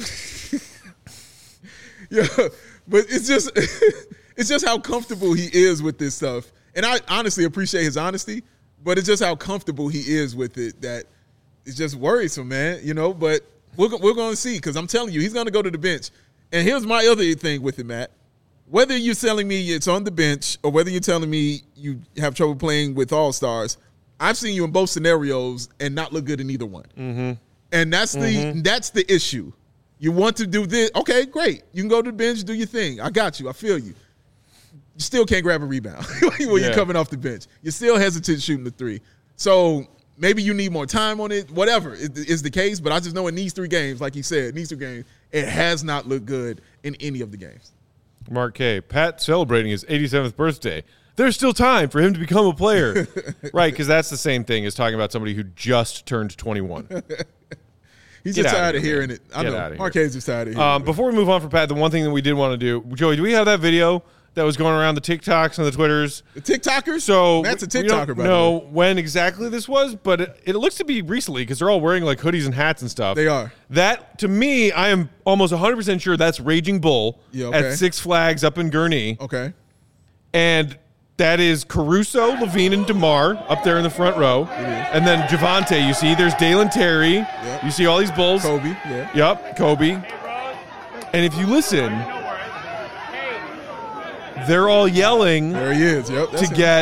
Yeah. But it's just it's just how comfortable he is with this stuff. And I honestly appreciate his honesty, but it's just how comfortable he is with it that it's just worrisome, man. You know, but we're, we're going to see, because I'm telling you, he's going to go to the bench. And here's my other thing with it, Matt. Whether you're telling me it's on the bench or whether you're telling me you have trouble playing with all-stars, I've seen you in both scenarios and not look good in either one. Mm-hmm. And that's the Mm-hmm. that's the issue. You want to do this. Okay, great. You can go to the bench, do your thing. I got you. I feel you. You still can't grab a rebound when Yeah. you're coming off the bench. You're still hesitant shooting the three. So maybe you need more time on it. Whatever is, is the case. But I just know in these three games, like you said, in these three games, it has not looked good in any of the games. Mark K. Pat celebrating his eighty-seventh birthday. There's still time for him to become a player. Right, because that's the same thing as talking about somebody who just turned twenty-one. He's Get just out tired of of here, hearing man. it. I Get know. out of here. Marquez is tired of hearing Um, it. before we move on for Pat, the one thing that we did want to do, Joey, do we have that video that was going around the TikToks and the Twitters? The TikTokers? So Matt's a we don't TikToker, by the know way. when exactly this was, but it, it looks to be recently because they're all wearing like hoodies and hats and stuff. They are. That, to me, I am almost one hundred percent sure that's Raging Bull Yeah, okay. at Six Flags up in Gurnee. Okay. And that is Caruso, Levine, and DeMar up there in the front row. And then Javonte, you see, there's Dalen Terry. Yep. You see all these Bulls. Kobe, yeah. Yep, Kobe. And if you listen, they're all yelling There he is. Yep. to that's him. get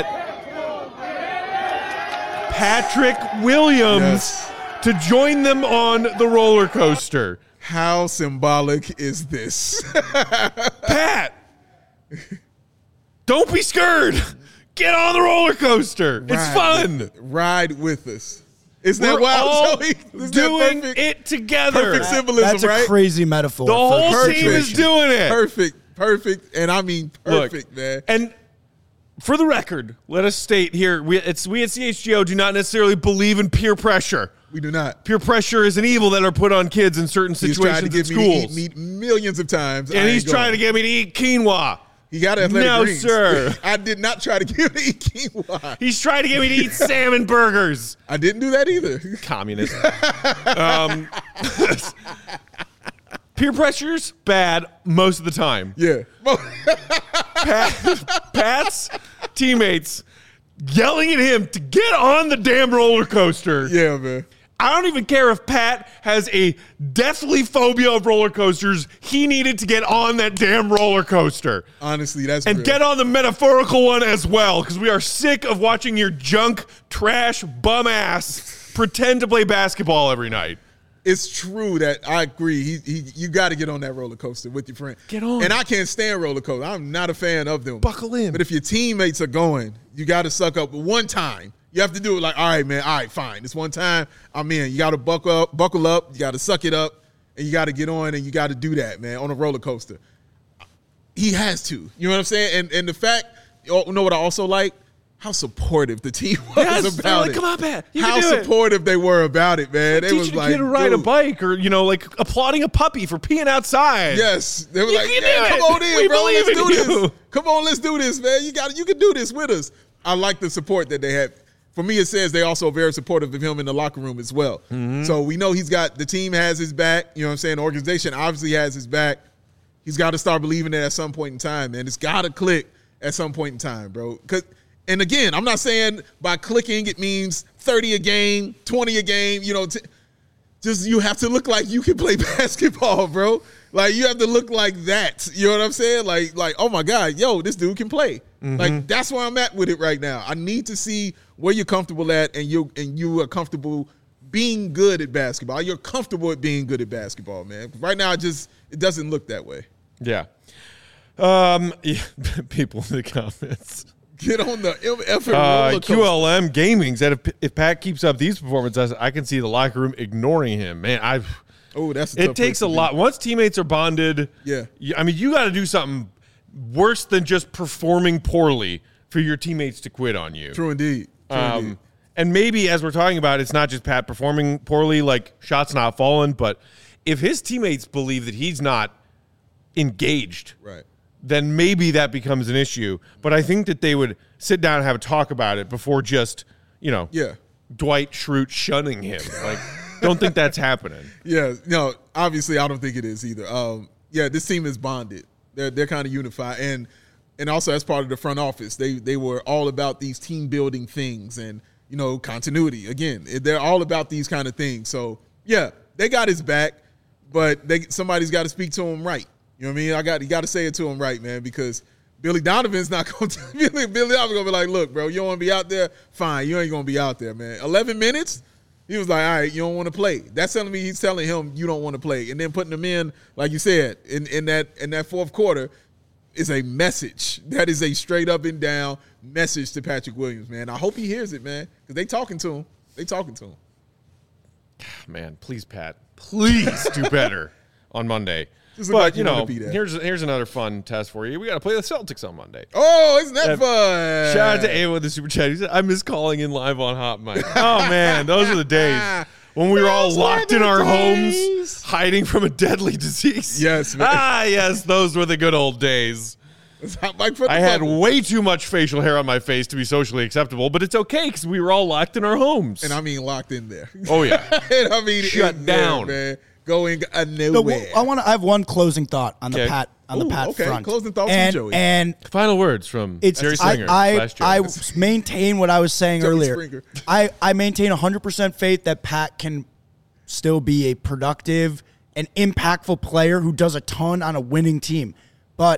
Patrick Williams Yes. to join them on the roller coaster. How symbolic is this? Pat, don't be scared. Get on the roller coaster. It's Ride fun. with- ride with us. Isn't We're that wild, all Joey? Isn't doing that perfect? it together. Perfect symbolism, That's a right? crazy metaphor. The for whole Perfect. team is doing it. Perfect, perfect, and I mean Look, perfect, man. And for the record, let us state here: we, it's, we at C H G O do not necessarily believe in peer pressure. We do not. Peer pressure is an evil that are put on kids in certain He's trying situations to at get me to schools, eat meat millions of times, and I he's ain't trying going. to get me to eat quinoa. He got athletic No, greens. sir. I did not try to get him to eat quinoa. He's trying to get me to eat salmon burgers. I didn't do that either. Communist. um, peer pressure's bad most of the time. Yeah. Pat, Pat's teammates yelling at him to get on the damn roller coaster. Yeah, man. I don't even care if Pat has a deathly phobia of roller coasters. He needed to get on that damn roller coaster. Honestly, that's And real. get on the metaphorical one as well, because we are sick of watching your junk, trash, bum ass pretend to play basketball every night. It's true that I agree. He, he, you got to get on that roller coaster with your friend. Get on. And I can't stand roller coasters. I'm not a fan of them. Buckle in. But if your teammates are going, you got to suck up one time. You have to do it like, all right, man, all right, fine. This one time, I'm in. You got to buckle up, buckle up. You got to suck it up, and you got to get on, and you got to do that, man, on a roller coaster. He has to. You know what I'm saying? And and the fact, you know what I also like? How supportive the team was Yes, they're about like, it. come on, Pat. You How can do it. supportive they were about it, man. They was Teaching a like, kid to ride a dude. bike, or you know, like applauding a puppy for peeing outside. Yes, they were You like, can yeah, do come it. on in, We bro. believe Let's in do you." this. Come on, let's do this, man. You got, you can do this with us. I like the support that they had. For me, it says they also very supportive of him in the locker room as well. Mm-hmm. So we know he's got the team has his back. You know what I'm saying? The organization obviously has his back. He's got to start believing it at some point in time, man. It's got to click at some point in time, bro. 'Cause, and again, I'm not saying by clicking it means thirty a game, twenty a game. You know, t- just you have to look like you can play basketball, bro. Like you have to look like that. You know what I'm saying? Like, like, oh my God, yo, this dude can play. Mm-hmm. Like that's where I'm at with it right now. I need to see where you're comfortable at, and you and you are comfortable being good at basketball. You're comfortable at being good at basketball, man. Right now, it just it doesn't look that way. Yeah. Um. Yeah, people in the comments. Get on the effort Uh, roller coaster. Q L M Gaming said if, if Pat keeps up these performances, I can see the locker room ignoring him. Man, I. Oh, that's a It tough takes place a to be. lot. Once teammates are bonded, Yeah. you- I mean, you got to do something worse than just performing poorly for your teammates to quit on you. True indeed. True indeed. Um, and maybe as we're talking about, it's not just Pat performing poorly, like shots not falling, but if his teammates believe that he's not engaged, Right. then maybe that becomes an issue. But I think that they would sit down and have a talk about it before just, you know, Yeah. Dwight Schrute shunning him. Like, don't think that's happening. Yeah, no, obviously I don't think it is either. Um, yeah, this team is bonded. They're they're kind of unified, and and also as part of the front office, they they were all about these team building things and you know continuity. Again, they're all about these kind of things. So yeah, they got his back, but they somebody's got to speak to him right. You know what I mean? I got you got to say it to him right, man, because Billy Donovan's not going to Billy Billy Donovan's going to be like, look, bro, you don't want to be out there. Fine, you ain't going to be out there, man. eleven minutes. He was like, all right, you don't want to play. That's telling me he's telling him you don't want to play. And then putting him in, like you said, in, in that in that fourth quarter is a message. That is a straight up and down message to Patrick Williams, man. I hope he hears it, man, because they talking to him. They talking to him. Man, please, Pat, please do better on Monday. Just look But, like you you wanna know, be there. here's here's another fun test for you. We got to play the Celtics on Monday. Oh, isn't that Uh, fun? Shout out to Ava with the super chat. He said, I miss calling in live on Hot Mic. Oh, man, those were the days when we were all Those were locked the in our days. homes, hiding from a deadly disease. Yes, man. Ah, yes, those were the good old days. It's Hot Mic for the I had bubble. way too much facial hair on my face to be socially acceptable, but it's okay because we were all locked in our homes. and I mean locked in there. oh, yeah. and I mean Shut in there, down. man. Going uh, No, nowhere. I want to. I have one closing thought on Okay. the Pat on Ooh, the Pat okay. front. Closing thoughts from and, Joey. And Final words from it's Jerry I Springer. I, slash Joey. I maintain what I was saying Joey earlier. Springer. I I maintain one hundred percent faith that Pat can still be a productive and impactful player who does a ton on a winning team. But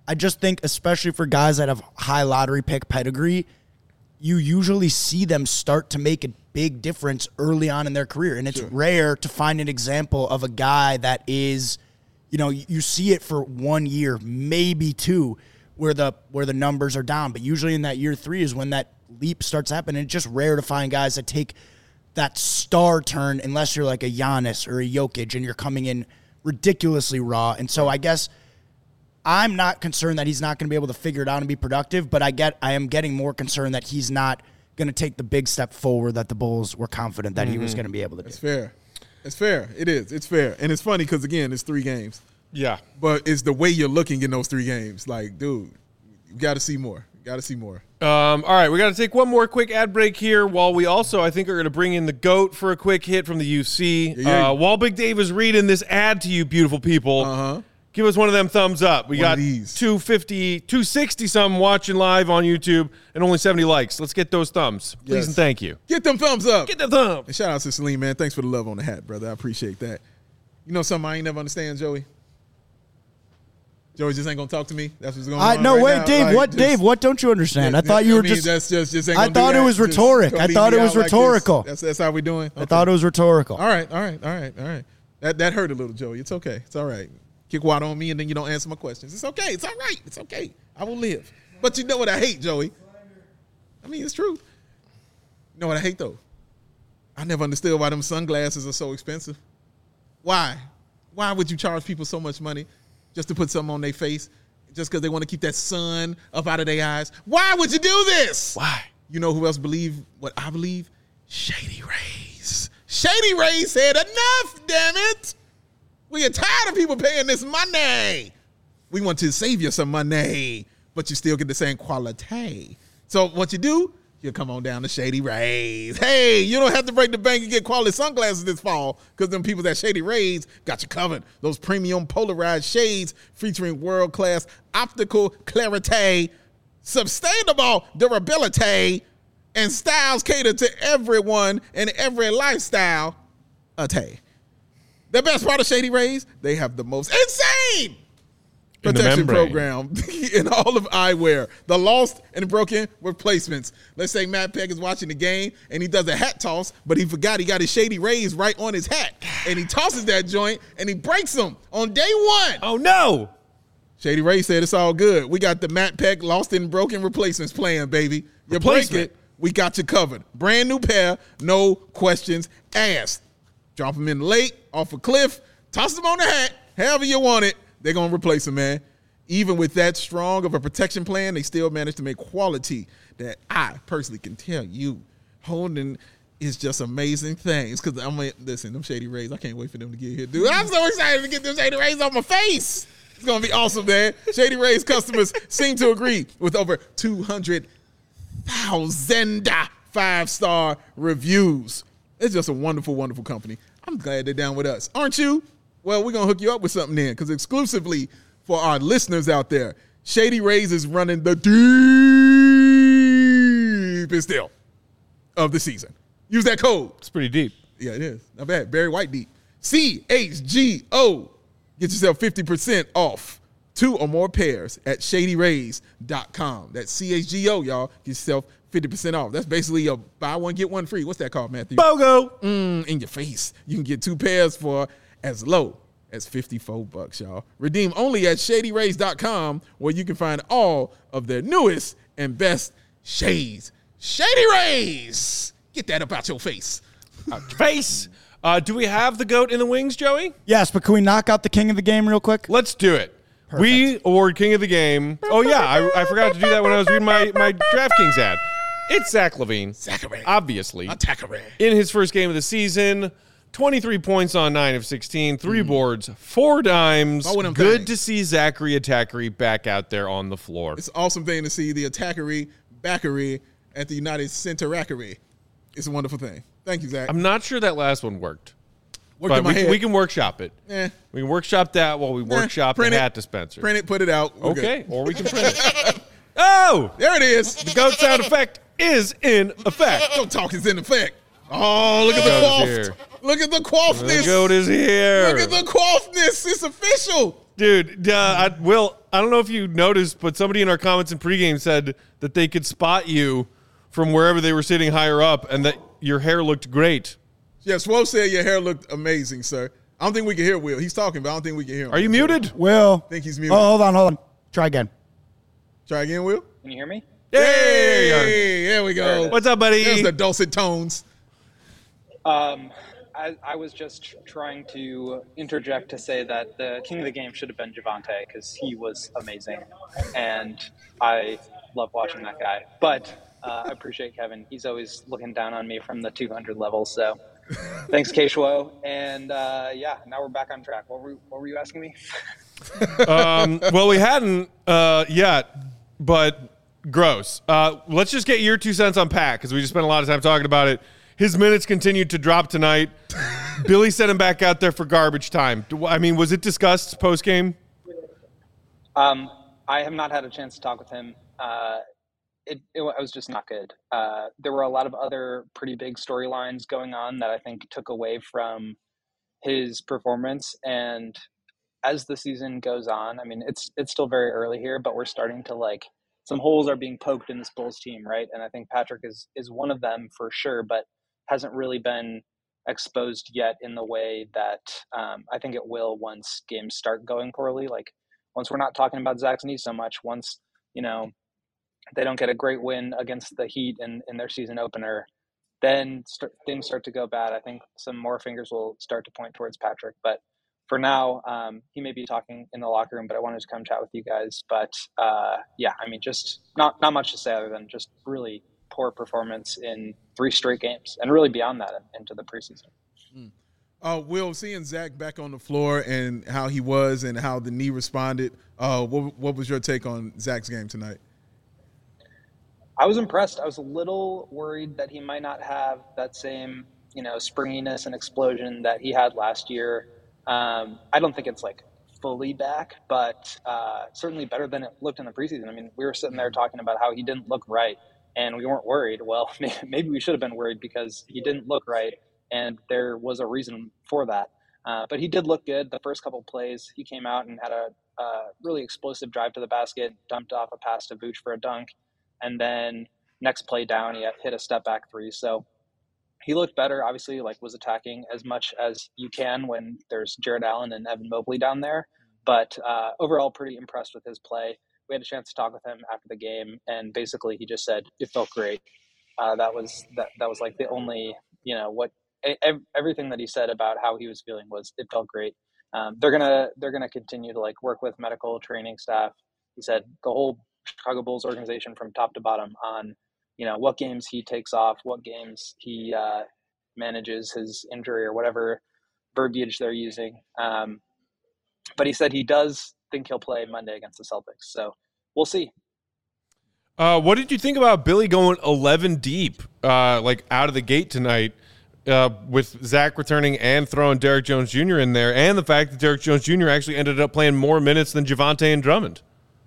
I just think, especially for guys that have high lottery pick pedigree, you usually see them start to make a big difference early on in their career. And it's sure. rare to find an example of a guy that is, you know, you see it for one year, maybe two, where the where the numbers are down. But usually in that year three is when that leap starts happening. It's just rare to find guys that take that star turn unless you're like a Giannis or a Jokic and you're coming in ridiculously raw. And so I guess I'm not concerned that he's not going to be able to figure it out and be productive, but I get I am getting more concerned that he's not going to take the big step forward that the Bulls were confident that mm-hmm. he was going to be able to do. It's fair. It's fair. It is. It's fair. And it's funny because, again, it's three games. Yeah. But it's the way you're looking in those three games. Like, dude, you got to see more. Got to see more. Um, all right, we got to take one more quick ad break here while we also, I think, are going to bring in the GOAT for a quick hit from the U C. Yeah, yeah. Uh, while Big Dave is reading this ad to you, beautiful people, uh-huh. give us one of them thumbs up. We one got two fifty, two sixty something watching live on YouTube and only seventy likes. Let's get those thumbs. Please yes. and thank you. Get them thumbs up. Get them thumbs. And shout out to Salim, man. Thanks for the love on the hat, brother. I appreciate that. You know something I ain't never understand, Joey? Joey just ain't gonna talk to me. That's what's going I, on. No, right wait, now. Dave. Like, what, just, Dave? What don't you understand? I thought you were I mean, just. That's just, just ain't I thought it was rhetoric. I thought it was rhetorical. Like that's that's how we doing. Okay. I thought it was rhetorical. All right, all right, all right, all right. That that hurt a little, Joey. It's okay. It's all right. Kick water on me, and then you don't answer my questions. It's okay. It's all right. It's okay. I will live. But you know what I hate, Joey? I mean, it's true. You know what I hate though? I never understood why them sunglasses are so expensive. Why? Why would you charge people so much money just to put something on their face? Just because they want to keep that sun up out of their eyes. Why would you do this? Why? You know who else believe what I believe? Shady Rays. Shady Rays said enough, damn it. We are tired of people paying this money. We want to save you some money, but you still get the same quality. So what you do, you come on down to Shady Rays. Hey, you don't have to break the bank and get quality sunglasses this fall because them people at Shady Rays got you covered. Those premium polarized shades featuring world-class optical clarity, sustainable durability, and styles cater to everyone and every lifestyle. Ate. The best part of Shady Rays, they have the most insane protection program in all of eyewear. The lost and broken replacements. Let's say Matt Peck is watching the game and he does a hat toss, but he forgot he got his Shady Rays right on his hat. And he tosses that joint and he breaks them on day one. Oh, no. Shady Rays said it's all good. We got the Matt Peck lost and broken replacements playing, baby. You break it, we got you covered. Brand new pair, no questions asked. Drop them in the lake, off a cliff, toss them on the hat, however you want it. They're going to replace them, man. Even with that strong of a protection plan, they still manage to make quality that I personally can tell you. Holding is just amazing things. Because I'm like, listen, them Shady Rays, I can't wait for them to get here, dude. I'm so excited to get them Shady Rays off my face. It's going to be awesome, man. Shady Rays customers seem to agree with over two hundred thousand five-star reviews. It's just a wonderful, wonderful company. I'm glad they're down with us. Aren't you? Well, we're going to hook you up with something then, because exclusively for our listeners out there, Shady Rays is running the deepest deal of the season. Use that code. It's pretty deep. Yeah, it is. Not bad. Barry White deep. C H G O. Get yourself fifty percent off two or more pairs at shady rays dot com. That's C H G O, y'all. Get yourself fifty percent off. That's basically a buy one, get one free. What's that called, Matthew? BOGO. Mm, in your face. You can get two pairs for as low as fifty-four bucks, y'all. Redeem only at shady rays dot com, where you can find all of their newest and best shades. Shady Rays. Get that up out your face. Out your face. Uh, do we have the GOAT in the wings, Joey? Yes, but can we knock out the king of the game real quick? Let's do it. Perfect. We award king of the game. Oh, yeah, I, I forgot to do that when I was reading my, my DraftKings ad. It's Zach LaVine. Zachary. Obviously. Zachary. In his first game of the season, twenty-three points on nine of sixteen, three mm. boards, four dimes. Oh, good things. to see Zachary Attackery back out there on the floor. It's an awesome thing to see the Attackery backery at the United Center-ackery. It's a wonderful thing. Thank you, Zach. I'm not sure that last one worked. Worked but in my we, head. Can, we can workshop it. Eh. We can workshop that while we eh. workshop print the it. hat dispenser. Print it, put it out. We're okay, good. or we can print it. Oh! There it is. The GOAT sound effect is in effect. Don't talk, it's in effect. Oh, look at the quaff. Look at the quaffness. The GOAT is here. Look at the quaffness. It's official. Dude, uh, I, Will, I don't know if you noticed, but somebody in our comments in pregame said that they could spot you from wherever they were sitting higher up and that your hair looked great. Yeah, Swole said your hair looked amazing, sir. I don't think we can hear Will. He's talking, but I don't think we can hear him. Are you muted? Will. I think he's muted. Oh, hold on, hold on. Try again. Try again, Will. Can you hear me? Hey, hey there we go. What's up, buddy? There's the dulcet tones. Um, I, I was just tr- trying to interject to say that the king of the game should have been Javonte because he was amazing, and I love watching that guy. But uh, I appreciate Kevin. He's always looking down on me from the two hundred level. So thanks, K-Shwo. And uh, yeah, now we're back on track. What were, what were you asking me? um, well, we hadn't uh, yet, but gross. Uh, let's just get your two cents on Pat because we just spent a lot of time talking about it. His minutes continued to drop tonight. Billy sent him back out there for garbage time. I mean, was it discussed post-game? Um, I have not had a chance to talk with him. Uh, it, it, it was just not good. Uh, there were a lot of other pretty big storylines going on that I think took away from his performance. And as the season goes on, I mean, it's it's still very early here, but we're starting to like some holes are being poked in this Bulls team, right? And I think Patrick is is one of them for sure, but hasn't really been exposed yet in the way that um, I think it will once games start going poorly. Like once we're not talking about Zach's knee so much, once, you know, they don't get a great win against the Heat in, in their season opener, then start, things start to go bad. I think some more fingers will start to point towards Patrick. But for now, um, he may be talking in the locker room, but I wanted to come chat with you guys. But uh, yeah, I mean, just not, not much to say other than just really poor performance in three straight games and really beyond that into the preseason. Mm. Uh, Will, seeing Zach back on the floor and how he was and how the knee responded, uh, what, what was your take on Zach's game tonight? I was impressed. I was a little worried that he might not have that same, you know, springiness and explosion that he had last year. Um, I don't think it's like fully back, but uh, certainly better than it looked in the preseason. I mean, we were sitting there talking about how he didn't look right and we weren't worried. Well, maybe we should have been worried because he didn't look right and there was a reason for that. Uh, but he did look good. The first couple of plays, he came out and had a, a really explosive drive to the basket, dumped off a pass to Vooch for a dunk. And then next play down, he hit a step back three. So he looked better, obviously, like was attacking as much as you can when there's Jared Allen and Evan Mobley down there. But uh, overall, pretty impressed with his play. We had a chance to talk with him after the game, and basically he just said it felt great. Uh, that was that that was like the only, you know, what ev- everything that he said about how he was feeling was it felt great. Um, they're gonna they're gonna continue to like work with medical training staff. He said the whole Chicago Bulls organization from top to bottom on, you know, what games he takes off, what games he uh, manages his injury or whatever verbiage they're using. Um, but he said he does think he'll play Monday against the Celtics. So we'll see. Uh, what did you think about Billy going eleven deep, uh, like out of the gate tonight, uh, with Zach returning and throwing Derrick Jones Junior in there, and the fact that Derrick Jones Junior actually ended up playing more minutes than Javonte and Drummond?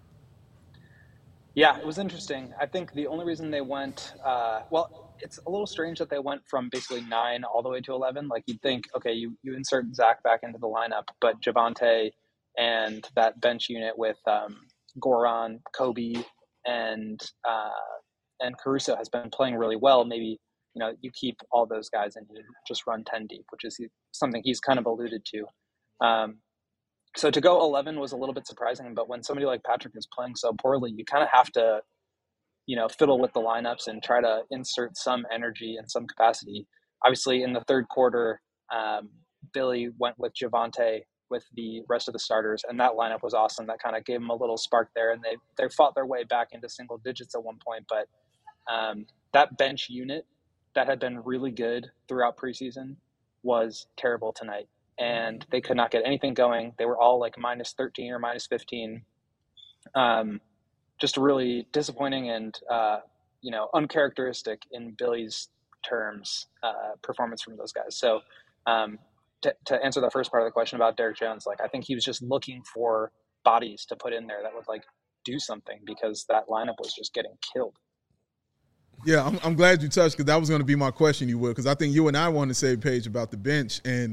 Yeah, it was interesting. I think the only reason they went, uh, well, it's a little strange that they went from basically nine all the way to eleven. Like you'd think, okay, you, you insert Zach back into the lineup, but Javonte and that bench unit with um, Goran, Kobe, and uh, and Caruso has been playing really well. Maybe, you know, you keep all those guys and you just run ten deep, which is something he's kind of alluded to. Um, So to go eleven was a little bit surprising, but when somebody like Patrick is playing so poorly, you kind of have to, you know, fiddle with the lineups and try to insert some energy and some capacity. Obviously, in the third quarter, um, Billy went with Javonte with the rest of the starters, and that lineup was awesome. That kind of gave them a little spark there, and they they fought their way back into single digits at one point. But um, that bench unit that had been really good throughout preseason was terrible tonight. And they could not get anything going. They were all like minus thirteen or minus fifteen. Um, just really disappointing and, uh, you know, uncharacteristic in Billy's terms, uh, performance from those guys. So um, to, to answer the first part of the question about Derrick Jones, like I think he was just looking for bodies to put in there that would like do something because that lineup was just getting killed. Yeah, I'm, I'm glad you touched because that was going to be my question, you will, because I think you and I were on the same page about the bench and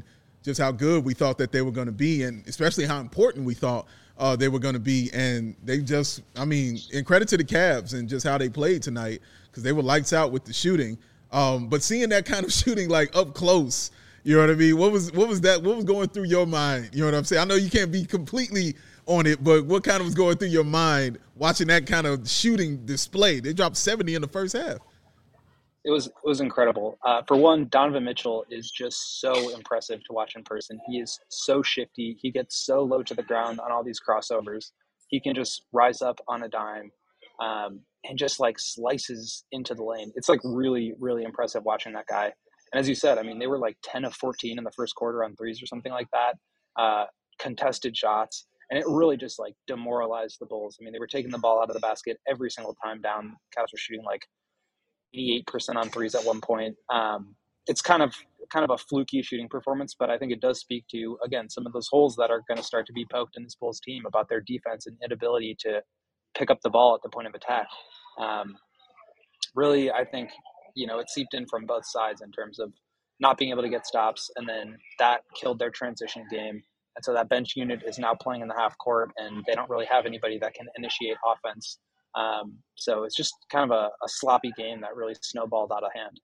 just how good we thought that they were going to be, and especially how important we thought uh, they were going to be. And they just, I mean, and credit to the Cavs and just how they played tonight, because they were lights out with the shooting. Um, but seeing that kind of shooting like up close, you know what I mean? What was what was that? What was going through your mind? You know what I'm saying? I know you can't be completely on it, but what kind of was going through your mind watching that kind of shooting display? They dropped seventy in the first half. It was it was incredible. Uh, for one, Donovan Mitchell is just so impressive to watch in person. He is so shifty. He gets so low to the ground on all these crossovers. He can just rise up on a dime um, and just like slices into the lane. It's like really, really impressive watching that guy. And as you said, I mean, they were like ten of fourteen in the first quarter on threes or something like that. Uh, contested shots. And it really just like demoralized the Bulls. I mean, they were taking the ball out of the basket every single time down. Cavs were shooting like eighty-eight percent on threes at one point. Um, it's kind of kind of a fluky shooting performance, but I think it does speak to, again, some of those holes that are going to start to be poked in this Bulls team about their defense and inability to pick up the ball at the point of attack. Um, really, I think, you know, it seeped in from both sides in terms of not being able to get stops, and then that killed their transition game. And so that bench unit is now playing in the half court, and they don't really have anybody that can initiate offense. Um, so it's just kind of a, a sloppy game that really snowballed out of hand.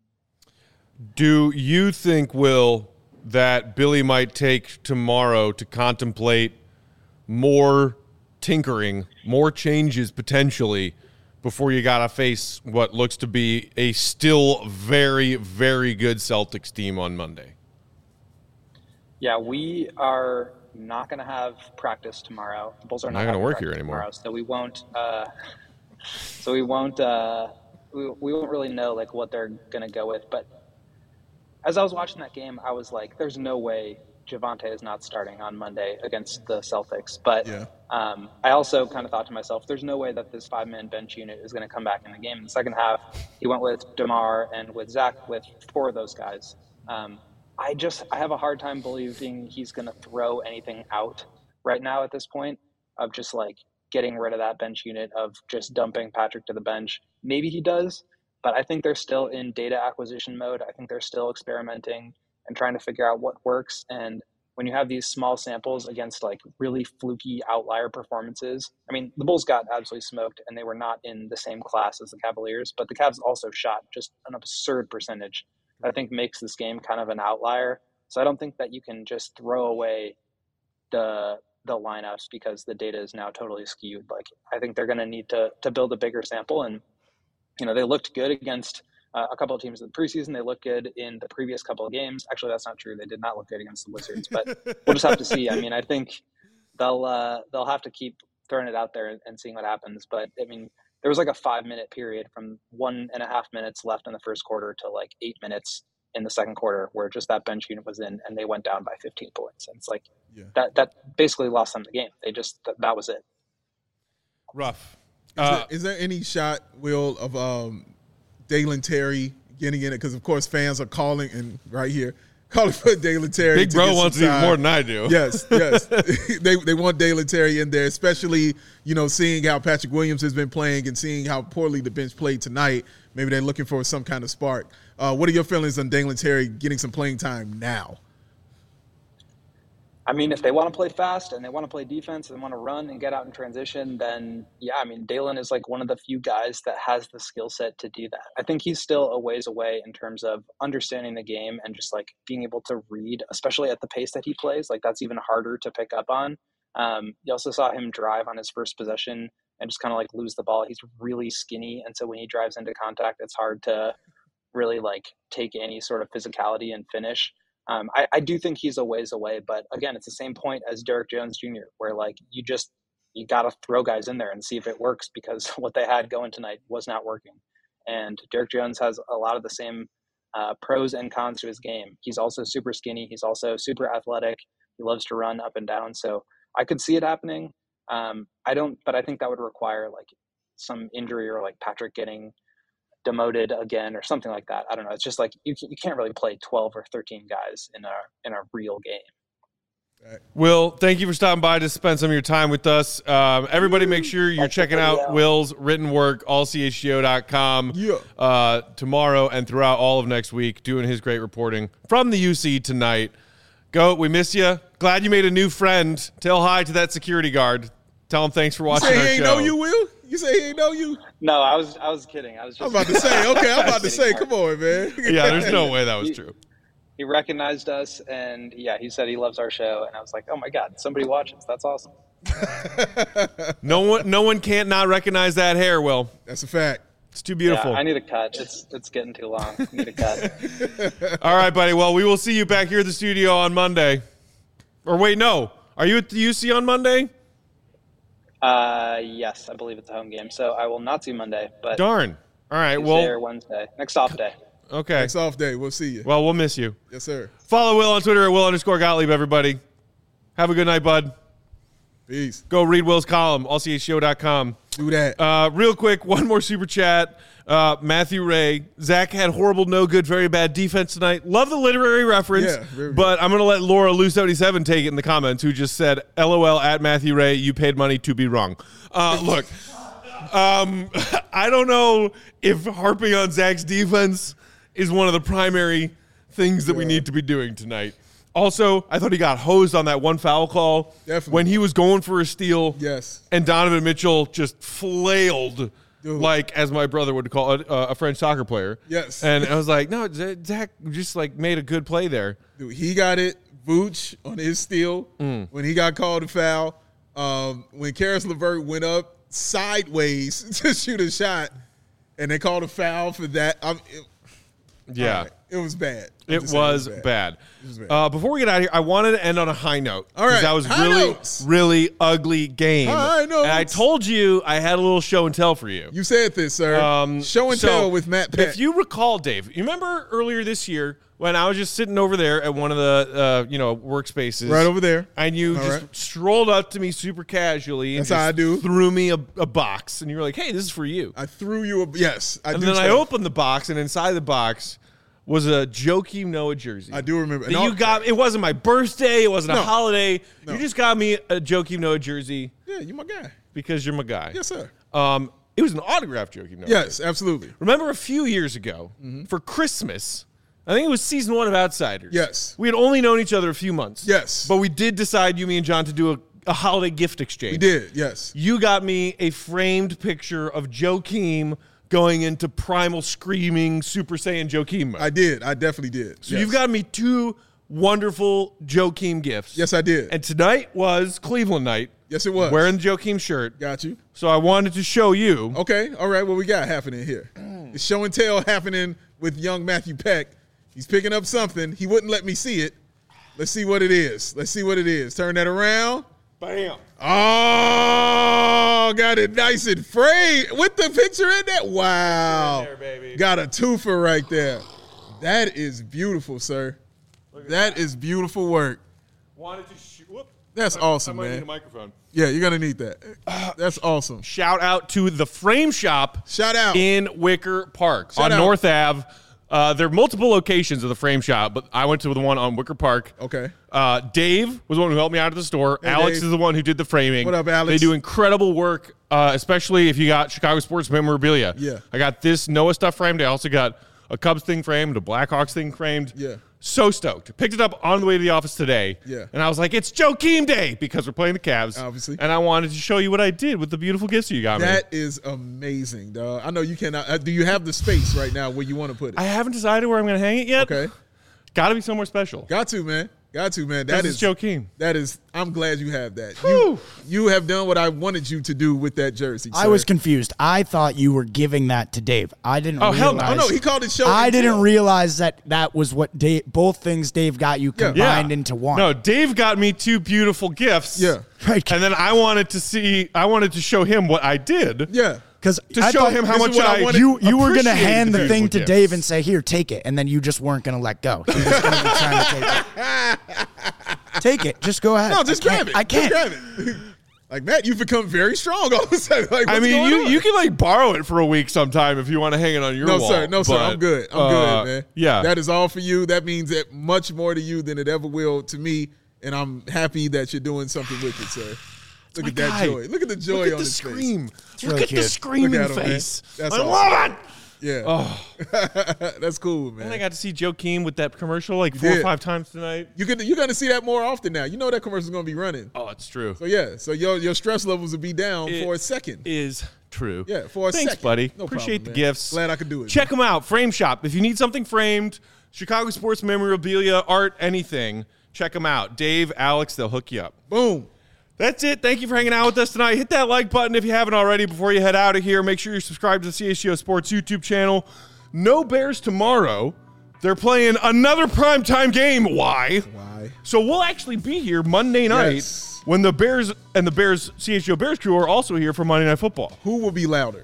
Do you think, Will, that Billy might take tomorrow to contemplate more tinkering, more changes potentially, before you got to face what looks to be a still very, very good Celtics team on Monday? Yeah, we are not going to have practice tomorrow. The Bulls are not, not going to work here anymore, anymore, so we won't. Uh, so we won't. Uh, we we won't really know like what they're going to go with. But as I was watching that game, I was like, "There's no way Javonte is not starting on Monday against the Celtics." But yeah. um, I also kind of thought to myself, "There's no way that this five-man bench unit is going to come back in the game." In the second half, he went with DeMar and with Zach, with four of those guys. Um, I just I have a hard time believing he's going to throw anything out right now at this point of just like getting rid of that bench unit, of just dumping Patrick to the bench. Maybe he does, but I think they're still in data acquisition mode. I think they're still experimenting and trying to figure out what works. And when you have these small samples against like really fluky outlier performances, I mean, the Bulls got absolutely smoked and they were not in the same class as the Cavaliers, but the Cavs also shot just an absurd percentage. I think makes this game kind of an outlier. So I don't think that you can just throw away the the lineups because the data is now totally skewed. Like, I think they're going to need to to build a bigger sample. And, you know, they looked good against uh, a couple of teams in the preseason. They looked good in the previous couple of games. Actually, that's not true. They did not look good against the Wizards, but we'll just have to see. I mean, I think they'll uh, they'll have to keep throwing it out there and, and seeing what happens. But, I mean, there was like a five minute period from one and a half minutes left in the first quarter to like eight minutes in the second quarter where just that bench unit was in and they went down by fifteen points. And it's like yeah. that, that basically lost them the game. They just, that, that was it. Rough. Is, uh, there, is there any shot, Will, of um, Dalen Terry getting in it? Because of course fans are calling and right here, calling for Dalen Terry. Big Bro wants it even more than I do. Yes, yes. they they want Dalen Terry in there, especially, you know, seeing how Patrick Williams has been playing and seeing how poorly the bench played tonight. Maybe they're looking for some kind of spark. Uh, what are your feelings on Dalen Terry getting some playing time now? I mean, if they want to play fast and they want to play defense and they want to run and get out in transition, then yeah, I mean, Dalen is like one of the few guys that has the skill set to do that. I think he's still a ways away in terms of understanding the game and just like being able to read, especially at the pace that he plays. Like, that's even harder to pick up on. Um, you also saw him drive on his first possession and just kind of like lose the ball. He's really skinny. And so when he drives into contact, it's hard to really like take any sort of physicality and finish. Um, I, I do think he's a ways away, but again, it's the same point as Derrick Jones Junior, where like you just, you got to throw guys in there and see if it works, because what they had going tonight was not working. And Derrick Jones has a lot of the same uh, pros and cons to his game. He's also super skinny. He's also super athletic. He loves to run up and down. So I could see it happening. Um, I don't, but I think that would require like some injury or like Patrick getting demoted again or something like that. I don't know. It's just like you you can't really play twelve or thirteen guys in a in a real game. Will, thank you for stopping by to spend some of your time with us. Um, everybody make sure you're checking out Will's written work, all c h g o dot com, yeah. uh, tomorrow and throughout all of next week, doing his great reporting from the U C tonight. Goat, we miss you. Glad you made a new friend. Tell hi to that security guard. Tell him thanks for watching you say our he ain't show. know you, Will? You say he ain't know you? No, I was I was kidding. I was just I'm about to say, okay, I'm about to say, come on, man. Yeah, there's no way that was He- true. He recognized us, and yeah, he said he loves our show, and I was like, oh my god, somebody watches. That's awesome. No one, no one can't not recognize that hair. Will, That's a fact. it's too beautiful. Yeah, I need a cut. It's it's getting too long. I need a cut. All right, buddy. Well, we will see you back here at the studio on Monday. Or wait, no. Are you at the U C on Monday? Uh, yes, I believe it's a home game, so I will not see Monday, but Darn. All right. Tuesday or Well, Wednesday, next off day. okay. Next off day. We'll see you. Well, we'll miss you. Yes, sir. Follow Will on Twitter at Will underscore Gottlieb, everybody. Have a good night, bud. Peace. Go read Will's column, all c h show dot com. Do that. Uh, real quick, one more super chat. Uh, Matthew Ray. Zach had horrible, no good, very bad defense tonight. Love the literary reference, Yeah, very good. but I'm going to let Laura Lou seventy-seven take it in the comments, who just said, LOL at Matthew Ray, you paid money to be wrong. Uh, look, um, I don't know if harping on Zach's defense is one of the primary things that we Yeah. need to be doing tonight. Also, I thought he got hosed on that one foul call Definitely. when he was going for a steal. Yes. And Donovan Mitchell just flailed, Dude. like, as my brother would call it, uh, a French soccer player. Yes. And I was like, no, Z- Zach just, like, made a good play there. Dude, he got it. Vooch on his steal Mm. when he got called a foul. Um, when Karis LeVert went up sideways to shoot a shot, and they called a foul for that. I'm, it, Yeah. all right, it was bad. I'm It just saying was bad. was bad. Uh, before we get out of here, I wanted to end on a high note. All right, 'cause that was high really, notes. really ugly game. High And I notes. told you I had a little show and tell for you. You said this, sir. Um, Show and so, tell with Matt Peck. If you recall, Dave, you remember earlier this year when I was just sitting over there at one of the uh, you know workspaces, right over there. and you All just right. strolled up to me super casually and That's how just I do. threw me a, a box, and you were like, "Hey, this is for you." I threw you a yes. I and do. then I say- opened the box, and inside the box was a Joakim Noah jersey. I do remember. That And you all- got. It wasn't my birthday. It wasn't No. a holiday. No. You just got me a Joakim Noah jersey Yeah, you my guy. because you're my guy. Yes, sir. Um, it was an autographed Joakim Noah. Yes, absolutely. Remember a few years ago for Christmas, I think it was season one of Outsiders. Yes. We had only known each other a few months. Yes. But we did decide, you, me, and John, to do a, a holiday gift exchange. We did. Yes. You got me a framed picture of Joakim going into primal screaming Super Saiyan Joakim mode. I did. I definitely did. so yes. you've got me two wonderful Joakim gifts. Yes, I did. And tonight was Cleveland night. yes, it was. Wearing the Joakim shirt. Got you. So I wanted to show you. Okay. All right. What we got happening here? It's show and tell happening with young Matthew Peck. He's picking up something. He wouldn't let me see it. Let's see what it is. Let's see what it is. Turn that around. Bam. Oh, got it nice and framed with the picture in there. Wow. There, baby. Got a twofer right there. That is beautiful, sir. That is beautiful work. Wanted to shoot. Whoop. That's I awesome, might need man. a microphone. Yeah, you're gonna need that. That's awesome. Shout out to the Frame Shop Shout out. in Wicker Park Shout on out. North Ave. Uh, there are multiple locations of the Frame Shop, but I went to the one on Wicker Park. Okay. Uh, Dave was the one who helped me out at the store. Hey, Alex Dave. is the one who did the framing. What up, Alex? They do incredible work, uh, especially if you got Chicago sports memorabilia. Yeah. I got this Noah stuff framed. I also got a Cubs thing framed, a Blackhawks thing framed. Yeah. So stoked. Picked it up on the way to the office today. Yeah. And I was like, it's Joakim Day because we're playing the Cavs. Obviously. And I wanted to show you what I did with the beautiful gifts you got me. That is amazing, dog. I know you cannot. Uh, do you have the space right now where you want to put it? I haven't decided where I'm going to hang it yet. Okay. Got to be somewhere special. Got to, man. Got to, man. That This is is Joakim. That is. I'm glad you have that. You, Whew. you have done what I wanted you to do with that jersey. I sir. was confused. I thought you were giving that to Dave. I didn't Oh, hell no. realize. Oh no, he called it show. I and didn't tell. realize that that was what Dave, both things Dave got you Yeah. combined into one. No, Dave got me two beautiful gifts. Yeah. Right. And then I wanted to see, I wanted to show him what I did. Yeah. Because To show him how this is much what I I, wanted. you you were gonna appreciated hand the the thing beautiful to Dave gifts. and say, "Here, take it," and then you just weren't gonna let go. You were just gonna be trying to take it. Take it. Just go ahead. No, just I can't- grab it. I can't. Just grab it. Like Matt, you've become very strong all of a sudden. Like, I what's mean, going you on? you can like borrow it for a week sometime if you want to hang it on your No, wall. sir. No, sir. but, I'm good. I'm uh, good, man. Yeah. That is all for you. That means that much more to you than it ever will to me. And I'm happy that you're doing something with it, sir. Look my at that guy. joy. Look at the joy Look at on the his scream. face. Look really at the cute. screaming Look at him, man. face. That's I awesome. love it. Yeah. Oh, That's cool, man. and I got to see Joakim with that commercial like You four did. or five times tonight. You could, you're going to see that more often now. You know that commercial's going to be running. Oh, it's true. So, yeah. So, your your stress levels will be down It for a second. Is true. Yeah, for a Thanks, second. buddy. No Appreciate problem, the man. gifts. Glad I could do it. Check them out. Frame Shop. If you need something framed, Chicago sports memorabilia, art, anything, check them out. Dave, Alex, they'll hook you up. Boom. That's it. Thank you for hanging out with us tonight. Hit that like button if you haven't already before you head out of here. Make sure you're subscribed to the C H G O Sports YouTube channel. No Bears tomorrow. They're playing another primetime game. Why? Why? So we'll actually be here Monday night Yes. when the Bears and the Bears C H G O Bears crew are also here for Monday Night Football. Who will be louder?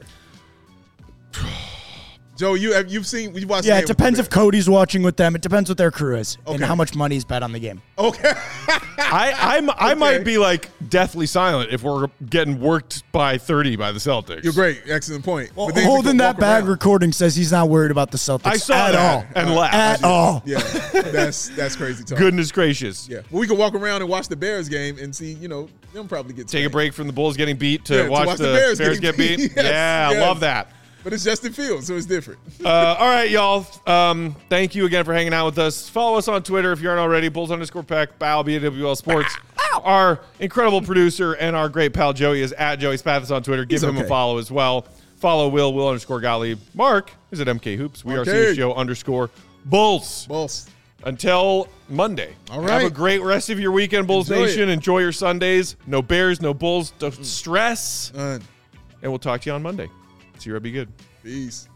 Joe, you have you've seen you watched. Yeah, the it game with depends the if Cody's watching with them. It depends what their crew is and Okay. how much money is bet on the game. Bears. Okay. I I'm, I Okay. might be like deathly silent if we're getting worked by thirty by the Celtics. You're great. Excellent point. Well, But then you holding can that walk bag around. recording says he's not worried about the Celtics I saw at that all. and laughed. At all. Yeah, that's that's crazy talk. Goodness gracious. Yeah, well, we can walk around and watch the Bears game and see, you know, them probably get Take a spanked. break from the Bulls getting beat to, Yeah, to watch, watch the, the Bears Bears, getting get beat. beat. Yes, yeah, yes. love that. But it's Justin Fields, so it's different. Uh, all right, y'all. Um, thank you again for hanging out with us. Follow us on Twitter if you aren't already. Bulls underscore Peck, Bow, B A W L Sports. Our incredible producer and our great pal Joey is at Joey Spathis on Twitter. Give He's him a okay. follow as well. Follow Will, Will underscore Gottlieb. Mark is at M K Hoops. We are Okay. C H G O underscore Bulls. Boss. Until Monday. All Have right. a great rest of your weekend, Bulls Enjoy Nation. it. Enjoy your Sundays. No Bears, no Bulls. Don't stress. Done. And we'll talk to you on Monday. See you. Be good. Peace.